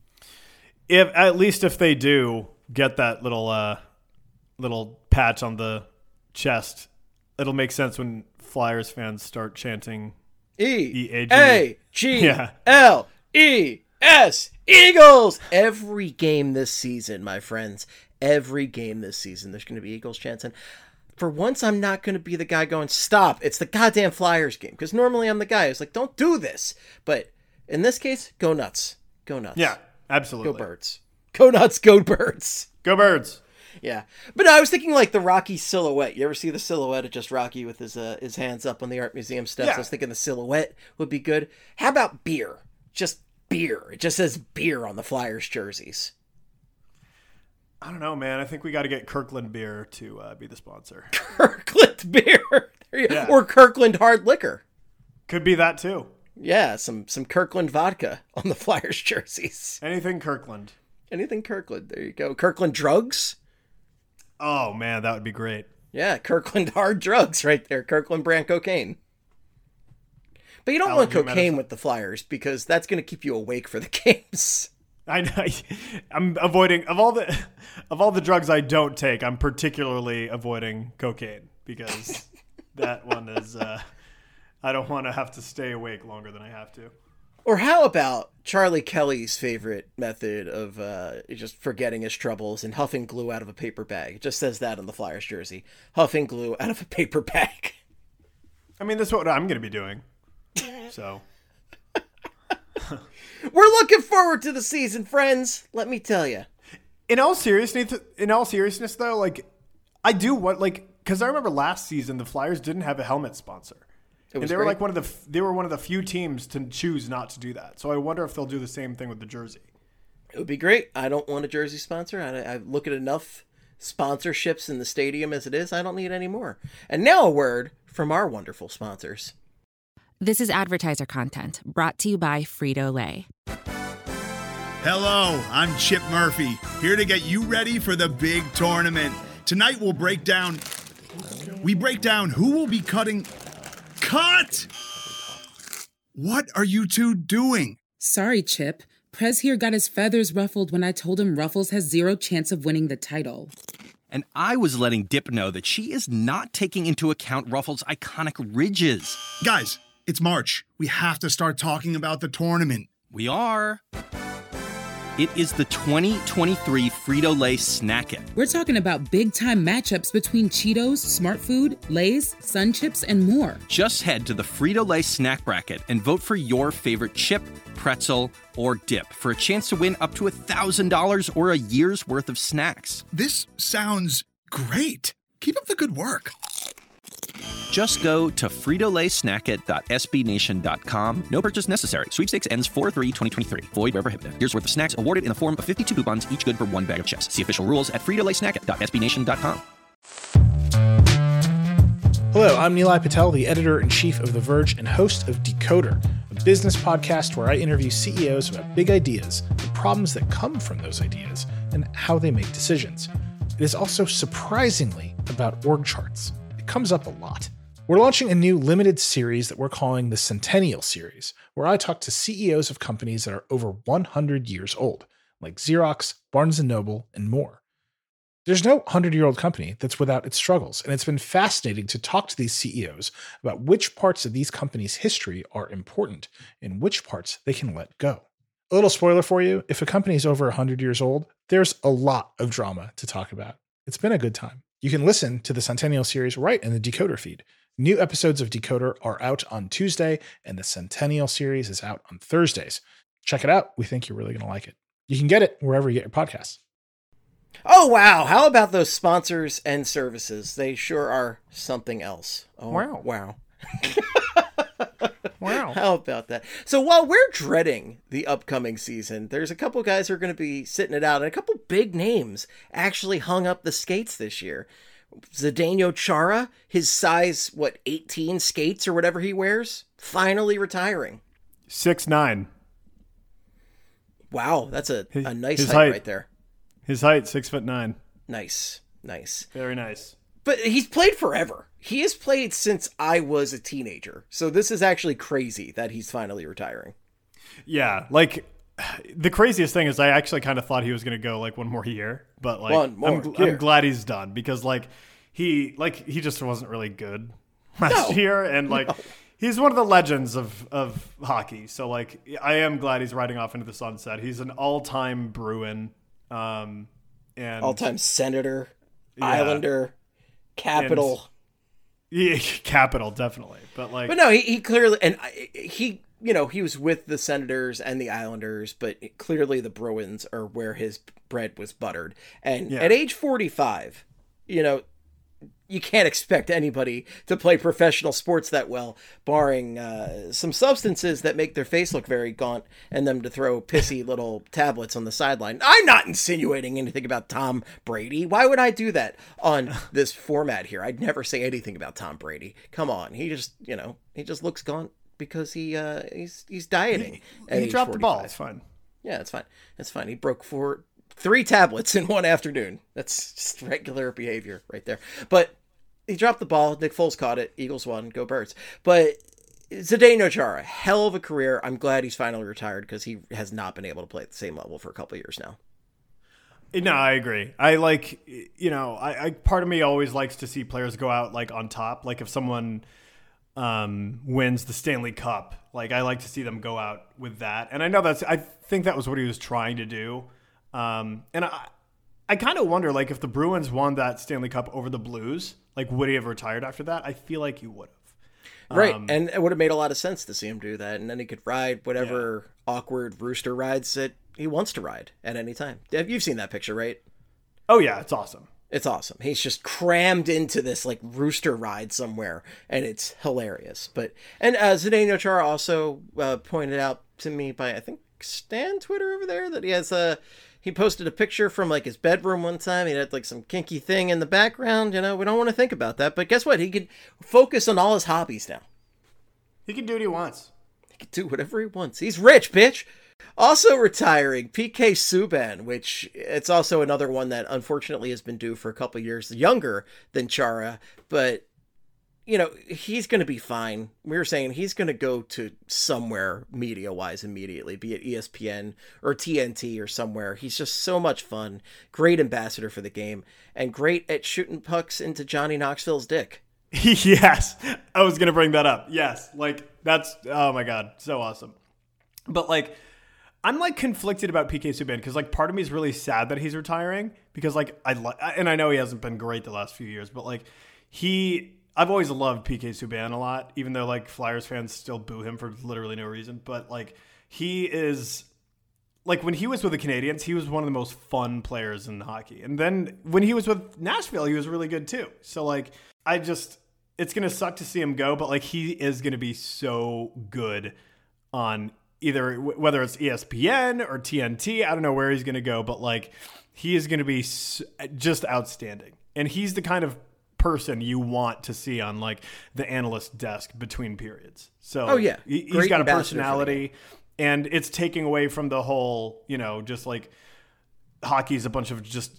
If at least if they do get that little, uh, little patch on the chest, it'll make sense when Flyers fans start chanting E E A G. A G Yeah. L E S Eagles. Every game this season, my friends, every game this season, there's going to be Eagles chanting. For once, I'm not going to be the guy going, stop, it's the goddamn Flyers game. Because normally I'm the guy who's like, don't do this. But in this case, go nuts. Go nuts. Yeah, absolutely. Go Birds. Go nuts, go Birds. Go Birds. Yeah. But no, I was thinking like the Rocky silhouette. You ever see the silhouette of just Rocky with his uh, his hands up on the art museum steps? Yeah. I was thinking the silhouette would be good. How about beer? Just beer. It just says beer on the Flyers jerseys. I don't know, man. I think we got to get Kirkland beer to uh, be the sponsor. Kirkland beer. There you- Yeah. Or Kirkland hard liquor. Could be that too. Yeah, some some Kirkland vodka on the Flyers jerseys. Anything Kirkland. Anything Kirkland. There you go. Kirkland drugs. Oh, man, that would be great. Yeah, Kirkland hard drugs right there. Kirkland brand cocaine. But you don't Allergy want cocaine medicine. with the Flyers because that's going to keep you awake for the games. I know. I'm avoiding of all the of all the drugs I don't take. I'm particularly avoiding cocaine because that one is. Uh, I don't want to have to stay awake longer than I have to. Or how about Charlie Kelly's favorite method of uh, just forgetting his troubles and huffing glue out of a paper bag? It just says that on the Flyers jersey. Huffing glue out of a paper bag. I mean, that's what I'm going to be doing. So. We're looking forward to the season, friends. Let me tell you. In all seriousness, in all seriousness, though, like I do want like because I remember last season the Flyers didn't have a helmet sponsor, and they were great. like one of the they were one of the few teams to choose not to do that. So I wonder if they'll do the same thing with the jersey. It would be great. I don't want a jersey sponsor. I, I look at enough sponsorships in the stadium as it is. I don't need any more. And now a word from our wonderful sponsors. This is advertiser content brought to you by Frito-Lay. Hello, I'm Chip Murphy, here to get you ready for the big tournament. Tonight we'll break down, we break down who will be cutting, cut! What are you two doing? Sorry, Chip. Prez here got his feathers ruffled when I told him Ruffles has zero chance of winning the title. And I was letting Dip know that she is not taking into account Ruffles' iconic ridges. Guys, it's March. We have to start talking about the tournament. We are. It is the twenty twenty-three Frito-Lay Snack It. We're talking about big-time matchups between Cheetos, Smart Food, Lay's, Sun Chips, and more. Just head to the Frito-Lay Snack Bracket and vote for your favorite chip, pretzel, or dip for a chance to win up to one thousand dollars or a year's worth of snacks. This sounds great. Keep up the good work. Just go to frito lay snack it dot s b nation dot com. No purchase necessary. Sweepstakes ends four three twenty twenty-three. Void where prohibited. Year's worth of snacks awarded in the form of fifty-two coupons, each good for one bag of chips. See official rules at frito lay snack it dot s b nation dot com. Hello, I'm Nilay Patel, the editor-in-chief of The Verge and host of Decoder, a business podcast where I interview C E Os about big ideas, the problems that come from those ideas, and how they make decisions. It is also surprisingly about org charts. It comes up a lot. We're launching a new limited series that we're calling the Centennial Series, where I talk to C E Os of companies that are over one hundred years old, like Xerox, Barnes and Noble, and more. There's no hundred-year-old company that's without its struggles, and it's been fascinating to talk to these C E Os about which parts of these companies' history are important and which parts they can let go. A little spoiler for you, if a company is over one hundred years old, there's a lot of drama to talk about. It's been a good time. You can listen to the Centennial Series right in the Decoder feed. New episodes of Decoder are out on Tuesday, and the Centennial Series is out on Thursdays. Check it out. We think you're really going to like it. You can get it wherever you get your podcasts. Oh, wow. How about those sponsors and services? They sure are something else. Oh, Wow. Wow. Wow. How about that? So while we're dreading the upcoming season, there's a couple guys who are going to be sitting it out, and a couple big names actually hung up the skates this year. Zdeno Chara, his size, what, eighteen skates or whatever he wears, finally retiring. six nine. Wow, that's a, a nice His height, height. right there. His height, six foot nine. Nice, nice. Very nice. But he's played forever. He has played since I was a teenager. So this is actually crazy that he's finally retiring. Yeah, like the craziest thing is I actually kind of thought he was going to go like one more year, but like One more I'm, gl- year. I'm glad he's done because like he like he just wasn't really good last No. year, and like No. he's one of the legends of of hockey. So like I am glad he's riding off into the sunset. He's an all-time Bruin, um, and All-time Senator, Yeah. Islander, Capital. yeah, capital definitely, but like But no, he, he clearly, and I- he, you know, he was with the Senators and the Islanders, but clearly the Bruins are where his bread was buttered. And Yeah. at age forty-five, you know, you can't expect anybody to play professional sports that well, barring uh, some substances that make their face look very gaunt and them to throw pissy little tablets on the sideline. I'm not insinuating anything about Tom Brady. Why would I do that on this format here? I'd never say anything about Tom Brady. Come on. He just, you know, he just looks gaunt, because he uh, he's he's dieting. He, he dropped the ball. It's fine. Yeah, it's fine. It's fine. He broke four, three tablets in one afternoon. That's just regular behavior right there. But he dropped the ball. Nick Foles caught it. Eagles won. Go Birds. But Zdeno Chara, hell of a career. I'm glad he's finally retired because he has not been able to play at the same level for a couple of years now. No, I agree. I like, you know, I, I part of me always likes to see players go out like on top. Like if someone um, wins the Stanley Cup, like I like to see them go out with that. And I know that's, I think that was what he was trying to do. Um, and I, I kind of wonder, like, if the Bruins won that Stanley Cup over the Blues, like, would he have retired after that? I feel like he would have. Right, Um, and it would have made a lot of sense to see him do that, and then he could ride whatever yeah. awkward rooster rides that he wants to ride at any time. You've seen that picture, right? Oh, yeah, it's awesome. It's awesome. He's just crammed into this, like, rooster ride somewhere, and it's hilarious. But And uh, Zdeno Chara also uh, pointed out to me by, I think, Stan Twitter over there, that he has a... He posted a picture from, like, his bedroom one time. He had, like, some kinky thing in the background. You know, we don't want to think about that. But guess what? He could focus on all his hobbies now. He can do what he wants. He can do whatever he wants. He's rich, bitch. Also retiring, P K Subban, which it's also another one that unfortunately has been due for a couple years younger than Chara. But, you know, he's going to be fine. We were saying he's going to go to somewhere media-wise immediately, be it E S P N or T N T or somewhere. He's just so much fun. Great ambassador for the game and great at shooting pucks into Johnny Knoxville's dick. Yes, I was going to bring that up. Yes, like that's, oh my God, so awesome. But like, I'm like conflicted about P K Subban because like part of me is really sad that he's retiring because like I like, and I know he hasn't been great the last few years, but like he... I've always loved P K Subban a lot, even though like Flyers fans still boo him for literally no reason. But like he is like when he was with the Canadiens, he was one of the most fun players in hockey. And then when he was with Nashville, he was really good too. So like I just it's gonna suck to see him go, but like he is gonna be so good on either whether it's E S P N or T N T. I don't know where he's gonna go, but like he is gonna be just outstanding. And he's the kind of person you want to see on like the analyst desk between periods. So oh yeah, he, he's got a personality and it's taking away from the whole, you know, just like hockey's a bunch of just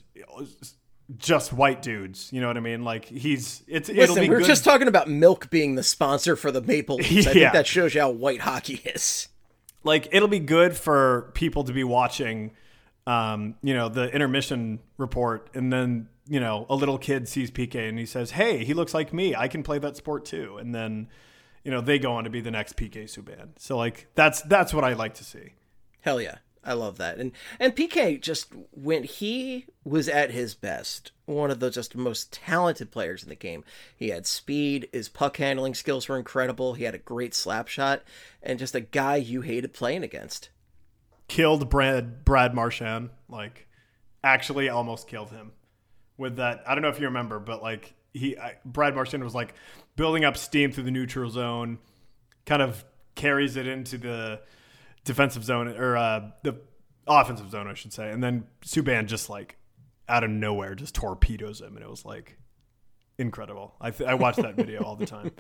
just white dudes, you know what I mean? Like he's it's Listen, it'll be we were good. just talking about Milk being the sponsor for the Maple Leafs. I Yeah. think that shows you how white hockey is. Like it'll be good for people to be watching um, you know, the intermission report and then you know, a little kid sees P K and he says, hey, he looks like me. I can play that sport too. And then, you know, they go on to be the next P K Subban. So like, that's, that's what I like to see. Hell yeah. I love that. And, and P K just, when he was at his best, one of the just most talented players in the game, he had speed, his puck handling skills were incredible. He had a great slap shot and just a guy you hated playing against. Killed Brad, Brad Marchand, like actually almost killed him. With that, I don't know if you remember, but like he, I, Brad Marchand was like building up steam through the neutral zone, kind of carries it into the defensive zone or uh, the offensive zone, I should say. And then Subban just like out of nowhere just torpedoes him. And it was like incredible. I, th- I watch that video all the time.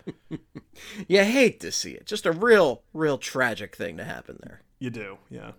You hate to see it. Just a real, real tragic thing to happen there. You do. Yeah.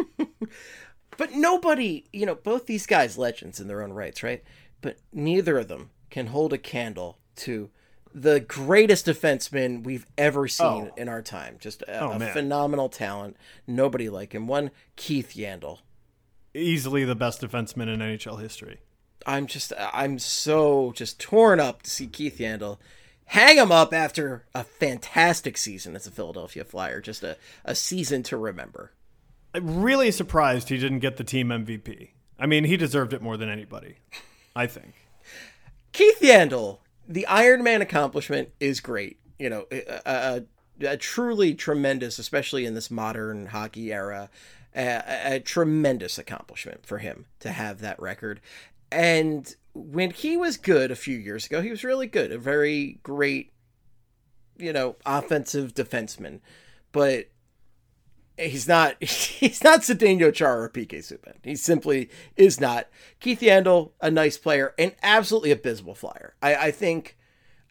But nobody, you know, both these guys legends in their own rights, right? But neither of them can hold a candle to the greatest defenseman we've ever seen Oh. in our time. Just a, Oh, a man. phenomenal talent. Nobody like him. One, Keith Yandel. Easily the best defenseman in N H L history. I'm just, I'm so just torn up to see Keith Yandel hang him up after a fantastic season as a Philadelphia Flyer. Just a, a season to remember. I'm really surprised he didn't get the team M V P. I mean, he deserved it more than anybody, I think. Keith Yandel, the Iron Man accomplishment is great. You know, a, a, a truly tremendous, especially in this modern hockey era, a, a tremendous accomplishment for him to have that record. And when he was good a few years ago, he was really good. A very great, you know, offensive defenseman. But he's not, he's not Zdeno Chara or P K Subban. He simply is not. Keith Yandel, a nice player, an absolutely abysmal Flyer. I, I think,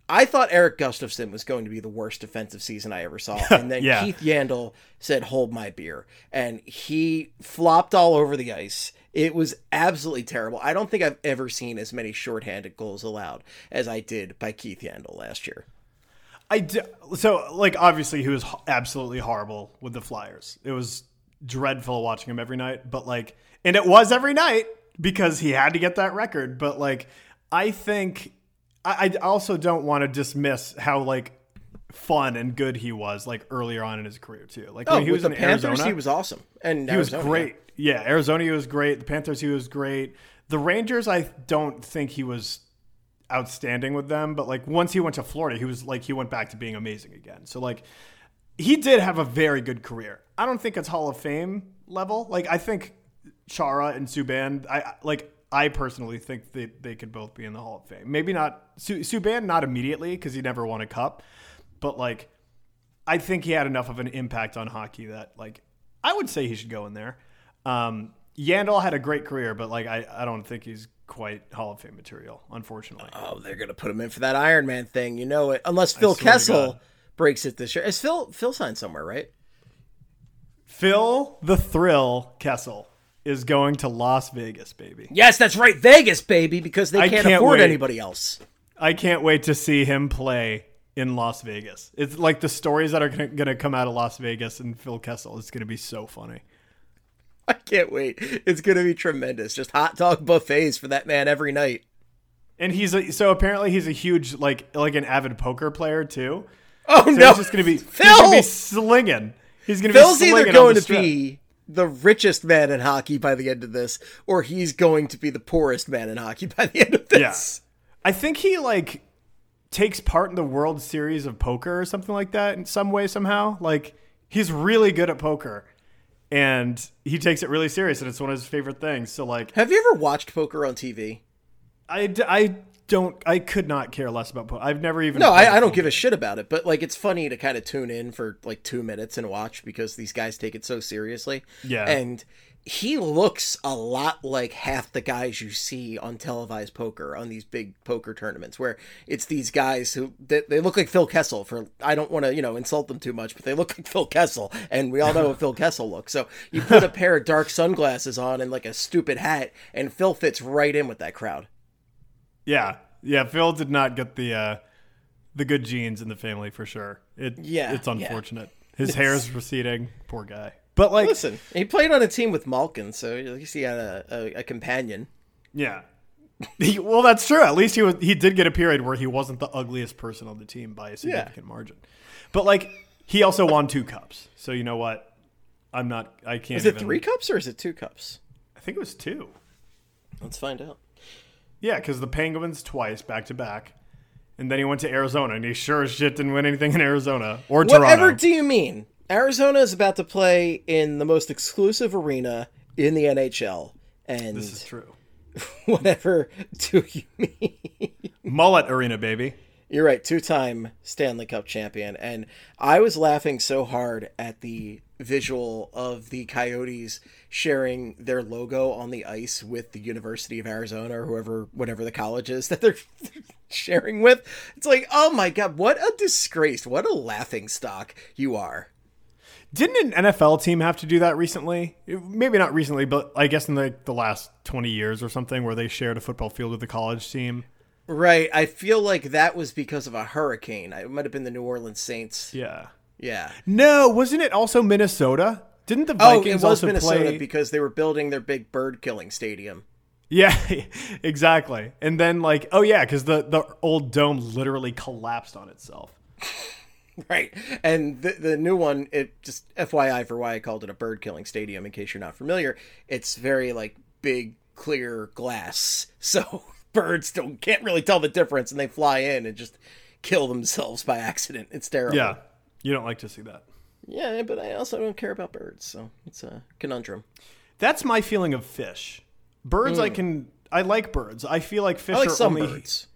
I thought Eric Gustafson was going to be the worst defensive season I ever saw. And then Yeah. Keith Yandel said, hold my beer. And he flopped all over the ice. It was absolutely terrible. I don't think I've ever seen as many shorthanded goals allowed as I did by Keith Yandel last year. I d- so like obviously he was h- absolutely horrible with the Flyers. It was dreadful watching him every night, but like, and it was every night because he had to get that record. But like, I think I, I also don't want to dismiss how like fun and good he was like earlier on in his career too. Like Oh, when he with was the in Panthers, Arizona, he was awesome. And he was Arizona, great. Yeah, Arizona he was great. The Panthers he was great. The Rangers I don't think he was outstanding with them, but like once he went to Florida, he was like he went back to being amazing again. So like he did have a very good career. I don't think it's Hall of Fame level. Like I think Chara and Subban, I like I personally think they they could both be in the Hall of Fame. Maybe not Su- Subban not immediately because he never won a cup, but like I think he had enough of an impact on hockey that like I would say he should go in there. Um, Yandel had a great career, but like I, I don't think he's quite Hall of Fame material, unfortunately. Oh, they're gonna put him in for that Iron Man thing, you know it. Unless Phil swear to Kessel God. breaks it this year. Is Phil Phil signed somewhere, right? Phil the Thrill Kessel is going to Las Vegas, baby. Yes, that's right, Vegas, baby, because they I can't, can't afford wait. anybody else. I can't wait to see him play in Las Vegas. It's like the stories that are going to come out of Las Vegas and Phil Kessel. It's going to be so funny. I can't wait. It's gonna be tremendous. Just hot dog buffets for that man every night. And he's a, so apparently he's a huge like like an avid poker player too. Oh So no, he's just going to be Phil. he's going to be slinging. He's going to be Phil's slinging either on going the to strip. be the richest man in hockey by the end of this, or he's going to be the poorest man in hockey by the end of this. I think he like takes part in the World Series of Poker or something like that in some way somehow. Like he's really good at poker and he takes it really serious and it's one of his favorite things. So like, Have you ever watched poker on T V? I, d- I don't, I could not care less about poker. I've never even. No, played I, I don't poker. give a shit about it, but like it's funny to kind of tune in for like two minutes and watch because these guys take it so seriously. Yeah. And he looks a lot like half the guys you see on televised poker on these big poker tournaments where it's these guys who they, they look like Phil Kessel for I don't want to, you know, insult them too much, but they look like Phil Kessel and we all know what Phil Kessel looks. So you put a pair of dark sunglasses on and like a stupid hat and Phil fits right in with that crowd. Yeah. Yeah. Phil did not get the, uh, the good genes in the family for sure. It, Yeah, It's yeah. unfortunate. His hair is receding. Poor guy. But like, Listen, he played on a team with Malkin, so at least he had a, a, a companion. yeah. He, well, that's true. At least he was. He did get a period where he wasn't the ugliest person on the team by a significant margin. But like, he also won two cups. So you know what? I'm not. I can't. Is it even, three cups or is it two cups? I think it was two. Let's find out. Yeah, because the Penguins twice back to back, and then he went to Arizona, and he sure as shit didn't win anything in Arizona or Toronto. Whatever do you mean? Arizona is about to play in the most exclusive arena in the N H L, and This is true. whatever do you mean? Mullet Arena, baby. You're right, two-time Stanley Cup champion, and I was laughing so hard at the visual of the Coyotes sharing their logo on the ice with the University of Arizona or whoever, whatever the college is that they're sharing with. It's like, oh my God, what a disgrace. What a laughing stock you are. Didn't an N F L team have to do that recently? Maybe not recently, but I guess in the, the last twenty years or something where they shared a football field with the college team. Right. I feel like that was because of a hurricane. It might have been the New Orleans Saints. Yeah. Yeah. No, wasn't it also Minnesota? Didn't the Oh, Vikings it was also Minnesota play? because they were building their big bird killing stadium. Yeah, exactly. And then like, oh yeah, because the, the old dome literally collapsed on itself. Right. And the the new one, it just F Y I for why I called it a bird killing stadium in case you're not familiar. It's very like big clear glass. So birds don't can't really tell the difference and they fly in and just kill themselves by accident. It's terrible. Yeah. You don't like to see that. Yeah, but I also don't care about birds, so it's a conundrum. That's my feeling of fish. Birds, I can, I like birds. I feel like fish I like are some only. birds.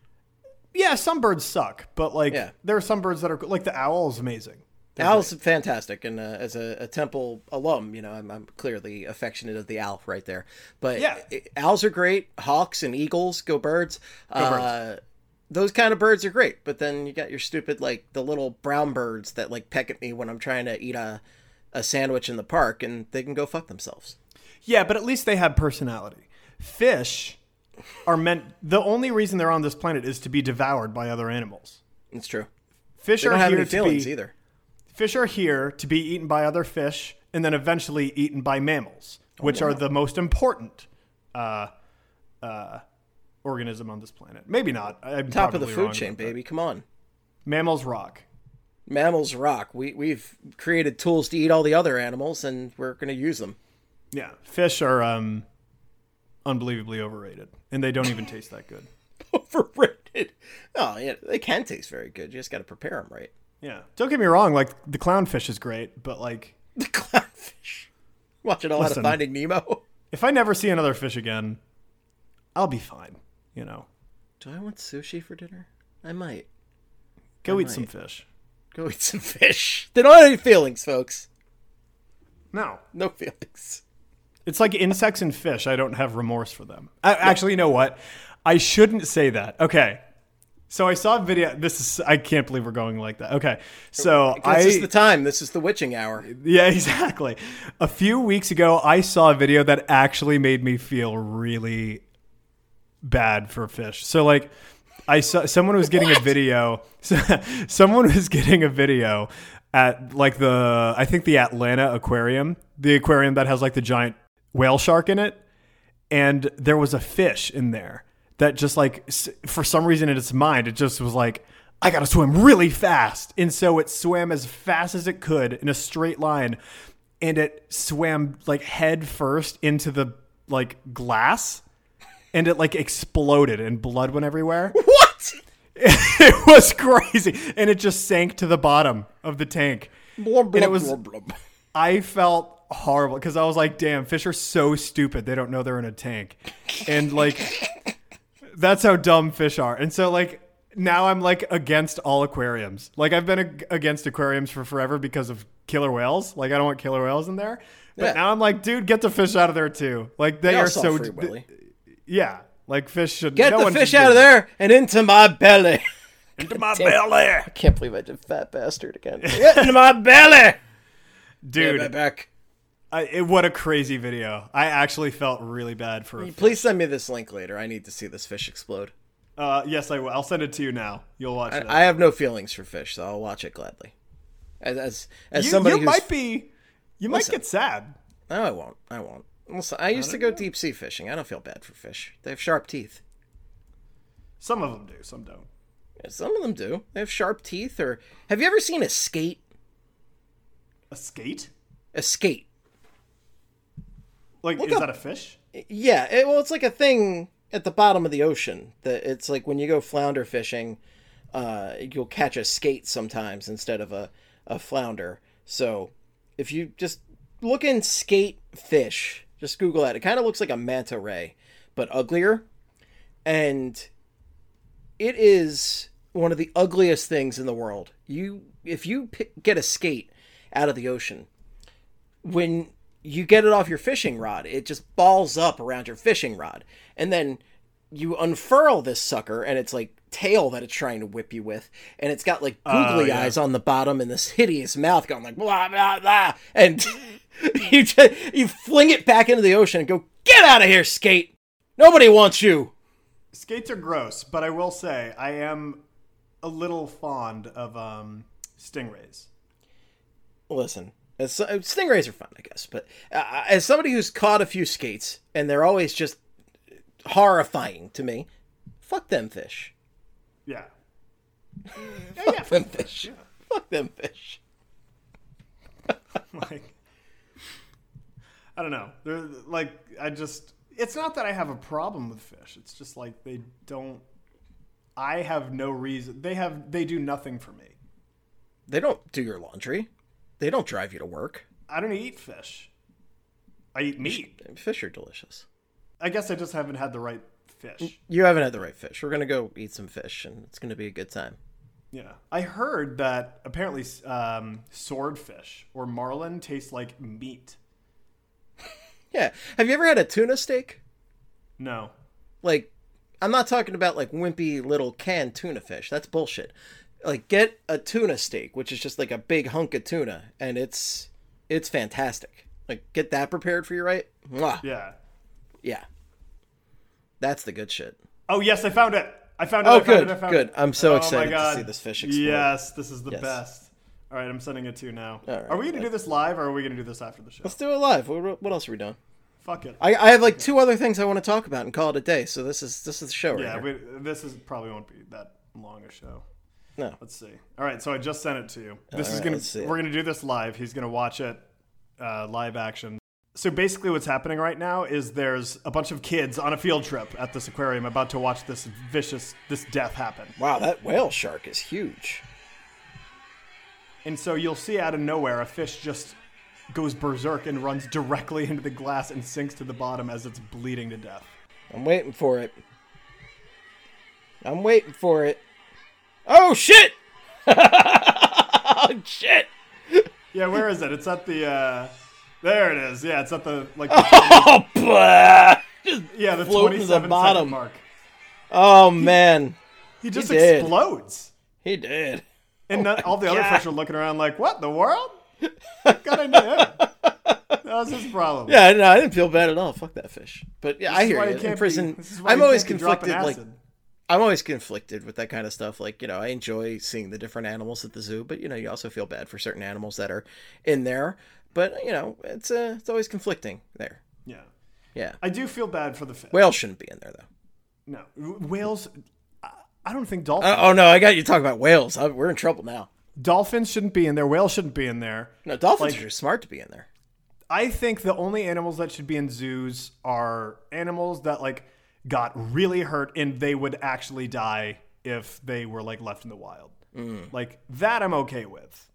Yeah, some birds suck, but like Yeah. there are some birds that are like the owl is amazing. They're Owl's fantastic, and uh, as a, a Temple alum, you know, I'm, I'm clearly affectionate of the owl right there. But Yeah. it- owls are great. Hawks and eagles, go birds. Go uh, birds. those kind of birds are great, but then you got your stupid, like, the little brown birds that, like, peck at me when I'm trying to eat a, a sandwich in the park, and they can go fuck themselves. Yeah, but at least they have personality. Fish are meant... The only reason they're on this planet is to be devoured by other animals. It's true. Fish they don't are have here any to feelings be, either. Fish are here to be eaten by other fish and then eventually eaten by mammals, which oh, wow. are the most important uh, uh, organism on this planet. Maybe not. I'm Top of the probably food wrong chain, about that. baby. Come on. Mammals rock. Mammals rock. We, we've created tools to eat all the other animals, and we're going to use them. Yeah. Fish are um, unbelievably overrated, and they don't even taste that good. Overrated? Oh, yeah. They can taste very good. You just got to prepare them right. Yeah. Don't get me wrong. Like, the clownfish is great, but, like... The clownfish. Watching all Listen, out of Finding Nemo. If I never see another fish again, I'll be fine, you know. Do I want sushi for dinner? I might. Go I eat might. some fish. Go eat some fish. They don't have any feelings, folks. No. No feelings. It's like insects and fish. I don't have remorse for them. I, actually, you know what? I shouldn't say that. Okay. So I saw a video. This is, I can't believe we're going like that. Okay. So I. This is the time. This is the witching hour. Yeah, exactly. A few weeks ago, I saw a video that actually made me feel really bad for fish. So, like, I saw someone was getting what? a video. Someone was getting a video at, like, the, I think the Atlanta Aquarium, the aquarium that has, like, the giant whale shark in it. And there was a fish in there that just, like, for some reason in its mind, it just was like, I got to swim really fast. And so it swam as fast as it could in a straight line. And it swam, like, head first into the, like, glass. And it, like, exploded and blood went everywhere. What? It was crazy. And it just sank to the bottom of the tank. Blub, blub, and it was, blub, blub. I felt horrible because I was like, damn, fish are so stupid. They don't know they're in a tank. And, like, that's how dumb fish are. And so, like, now I'm, like, against all aquariums. Like, I've been ag- against aquariums for forever because of killer whales. Like, I don't want killer whales in there. But yeah. Now I'm like, dude, get the fish out of there, too. Like, they, they are so... Free Willy. Yeah. Like, fish should... Get no the fish out of there and into my belly. Into my belly. I can't believe I did fat bastard again. Get into my belly. Dude. Get back. I, it, what a crazy video. I actually felt really bad for it. Please send me this link later. I need to see this fish explode. Uh, yes, I will. I'll send it to you now. You'll watch I, it. I have no feelings for fish, so I'll watch it gladly. As as, as you, somebody you who's... might be... You Listen, might get sad. No, I won't. I won't. Listen, I used I to go know. deep sea fishing. I don't feel bad for fish. They have sharp teeth. Some of them do. Some don't. Yeah, some of them do. They have sharp teeth. Or have you ever seen a skate? A skate? A skate. Like, Look is up. that a fish? Yeah. It, well, it's like a thing at the bottom of the ocean. That it's like when you go flounder fishing, uh, you'll catch a skate sometimes instead of a, a flounder. So if you just look in skate fish, just Google that. It kind of looks like a manta ray, but uglier. And it is one of the ugliest things in the world. You, if you pick, get a skate out of the ocean, when you get it off your fishing rod, it just balls up around your fishing rod. And then you unfurl this sucker, and it's like tail that it's trying to whip you with. And it's got like googly uh, yeah. eyes on the bottom and this hideous mouth going like blah, blah, blah. And you, just, you fling it back into the ocean and go, get out of here, skate. Nobody wants you. Skates are gross, but I will say I am a little fond of um, stingrays. Listen, as, stingrays are fun, I guess. But uh, as somebody who's caught a few skates, and they're always just horrifying to me, fuck them fish. Yeah. yeah fuck yeah, them fish. Yeah. Fuck them fish. Like, I don't know. They're like, I just... It's not that I have a problem with fish. It's just like they don't... I have no reason... They have. They do nothing for me. They don't do your laundry. They don't drive you to work. I don't eat fish. I eat meat. Fish are delicious. I guess I just haven't had the right fish. You haven't had the right fish. We're going to go eat some fish, and it's going to be a good time. Yeah. I heard that apparently um, swordfish or marlin taste like meat. Yeah. Have you ever had a tuna steak? No. Like, I'm not talking about like wimpy little canned tuna fish. That's bullshit. Like get a tuna steak, which is just like a big hunk of tuna, and it's it's fantastic. Like get that prepared for you, right? Mwah. Yeah. Yeah. That's the good shit. Oh yes, I found it. I found it. Oh, I found good, it, I found good. It. I'm so oh, excited my God. to see this fish explode. Yes, this is the Yes. best. All right, I'm sending it to you now. All right, are we going to do this live, or are we going to do this after the show? Let's do it live. What, what else are we doing? Fuck it. I, I have like two other things I want to talk about and call it a day. So this is this is the show right Yeah, here. we, this is probably won't be that long a show. No. Let's see. All right, so I just sent it to you. This All is right, gonna let's see it. we're gonna do this live. He's gonna watch it uh, live action. So basically, what's happening right now is there's a bunch of kids on a field trip at this aquarium about to watch this vicious this death happen. Wow, that whale shark is huge. And so you'll see out of nowhere a fish just goes berserk and runs directly into the glass and sinks to the bottom as it's bleeding to death. I'm waiting for it. I'm waiting for it. Oh shit! Oh shit! Yeah, where is it? It's at the. Uh, there it is. Yeah, it's at the like. The Oh, blah! Just yeah, the floating to the twenty-seven bottom. second mark. Oh man, He just He did. explodes. he did. And not, all the other God. fish are looking around like, what, the world? Got into him. That was his problem. Yeah, no, I didn't feel bad at all. Fuck that fish. But yeah, This I is hear why you. you can't In prison, be, this is why I'm you always can't be dropping conflicted. Like, acid. I'm always conflicted with that kind of stuff. Like, you know, I enjoy seeing the different animals at the zoo, but you know, you also feel bad for certain animals that are in there. But you know, it's uh, it's always conflicting there. Yeah. Yeah, I do feel bad for the fish. whales shouldn't be in there though. No. Whales, I- I don't think dolphins. Uh, oh no, I got you talking about whales. I, we're in trouble now. Dolphins shouldn't be in there. Whales shouldn't be in there. No, dolphins Like- are smart to be in there. I think the only animals that should be in zoos are animals that like got really hurt and they would actually die if they were like left in the wild. Mm. Like that I'm okay with.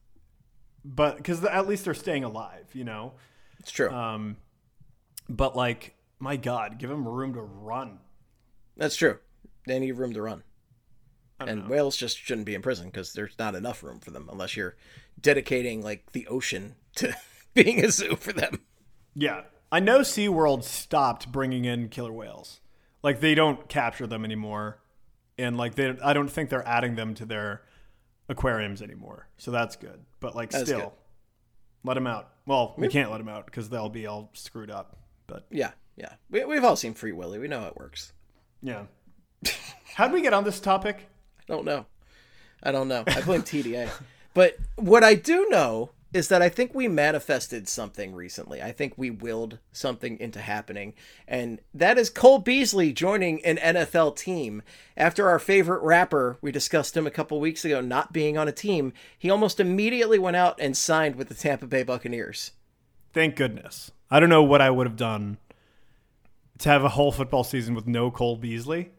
But because at least they're staying alive, you know? It's true. Um, but like, my God, give them room to run. That's true. They need room to run. I don't And know. whales just shouldn't be in prison because there's not enough room for them unless you're dedicating like the ocean to being a zoo for them. Yeah. I know SeaWorld stopped bringing in killer whales. Like they don't capture them anymore. And like they I don't think they're adding them to their aquariums anymore. So that's good. But like That's still good. let them out. Well, we can't let them out because they'll be all screwed up. But Yeah, yeah. We, we've all seen Free Willy. We know how it works. yeah. How'd we get on this topic? I don't know. I don't know. I blame T D A. But what I do know is that I think we manifested something recently. I think we willed something into happening. And that is Cole Beasley joining an N F L team. After our favorite rapper, we discussed him a couple weeks ago, not being on a team, he almost immediately went out and signed with the Tampa Bay Buccaneers. Thank goodness. I don't know what I would have done to have a whole football season with no Cole Beasley.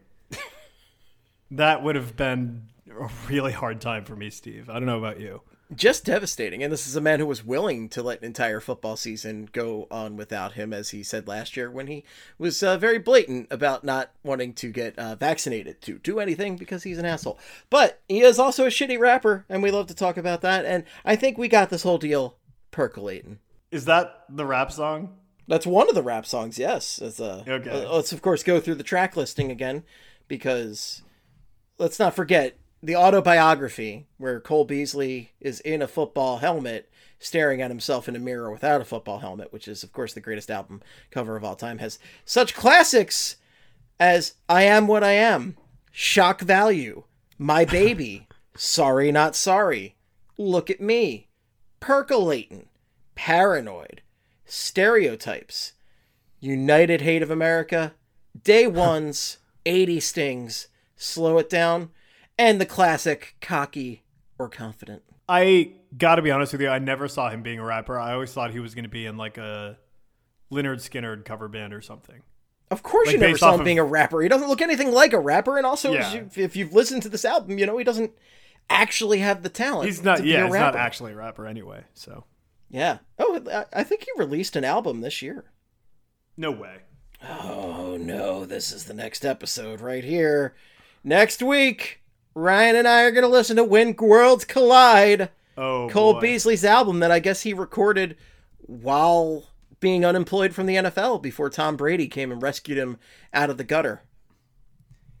That would have been a really hard time for me, Steve. I don't know about you. Just devastating. And this is a man who was willing to let an entire football season go on without him, as he said last year when he was uh, very blatant about not wanting to get uh, vaccinated to do anything because he's an asshole. But he is also a shitty rapper, and we love to talk about that. And I think we got this whole deal percolating. Is that the rap song? That's one of the rap songs, yes. It's, uh, Okay. uh, let's, of course, go through the track listing again, because let's not forget the autobiography where Cole Beasley is in a football helmet staring at himself in a mirror without a football helmet, which is, of course, the greatest album cover of all time, has such classics as I Am What I Am, Shock Value, My Baby, Sorry Not Sorry, Look at Me, Percolatin', Paranoid, Stereotypes, United Hate of America, Day Ones, eighty Stings, Slow It Down, and the classic Cocky or Confident. I gotta be honest with you, I never saw him being a rapper. I always thought he was going to be in like a Lynyrd Skynyrd cover band or something. Of course Like you never based saw off him of- being a rapper. He doesn't look anything like a rapper, and also Yeah. as you, if you've listened to this album, you know he doesn't actually have the talent. He's not, to be yeah, a he's rapper. not actually a rapper anyway, so. Yeah. Oh, I- I think he released an album this year. No way. Oh no, this is the next episode right here. Next week, Ryan and I are going to listen to When Worlds Collide, Oh, Cole boy. Beasley's album that I guess he recorded while being unemployed from the N F L before Tom Brady came and rescued him out of the gutter.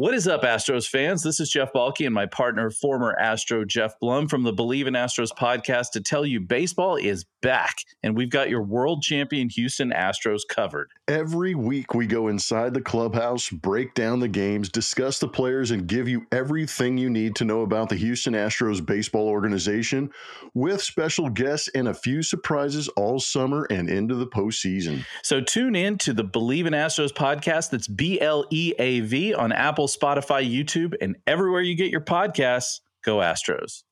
What is up, Astros fans? This is Jeff Balke and my partner, former Astro Jeff Blum from the Believe in Astros podcast to tell you baseball is back, and we've got your world champion Houston Astros covered. Every week we go inside the clubhouse, break down the games, discuss the players, and give you everything you need to know about the Houston Astros baseball organization with special guests and a few surprises all summer and into the postseason. So tune in to the Believe in Astros podcast. That's B L E A V on Apple, Spotify, YouTube, and everywhere you get your podcasts. Go Astros.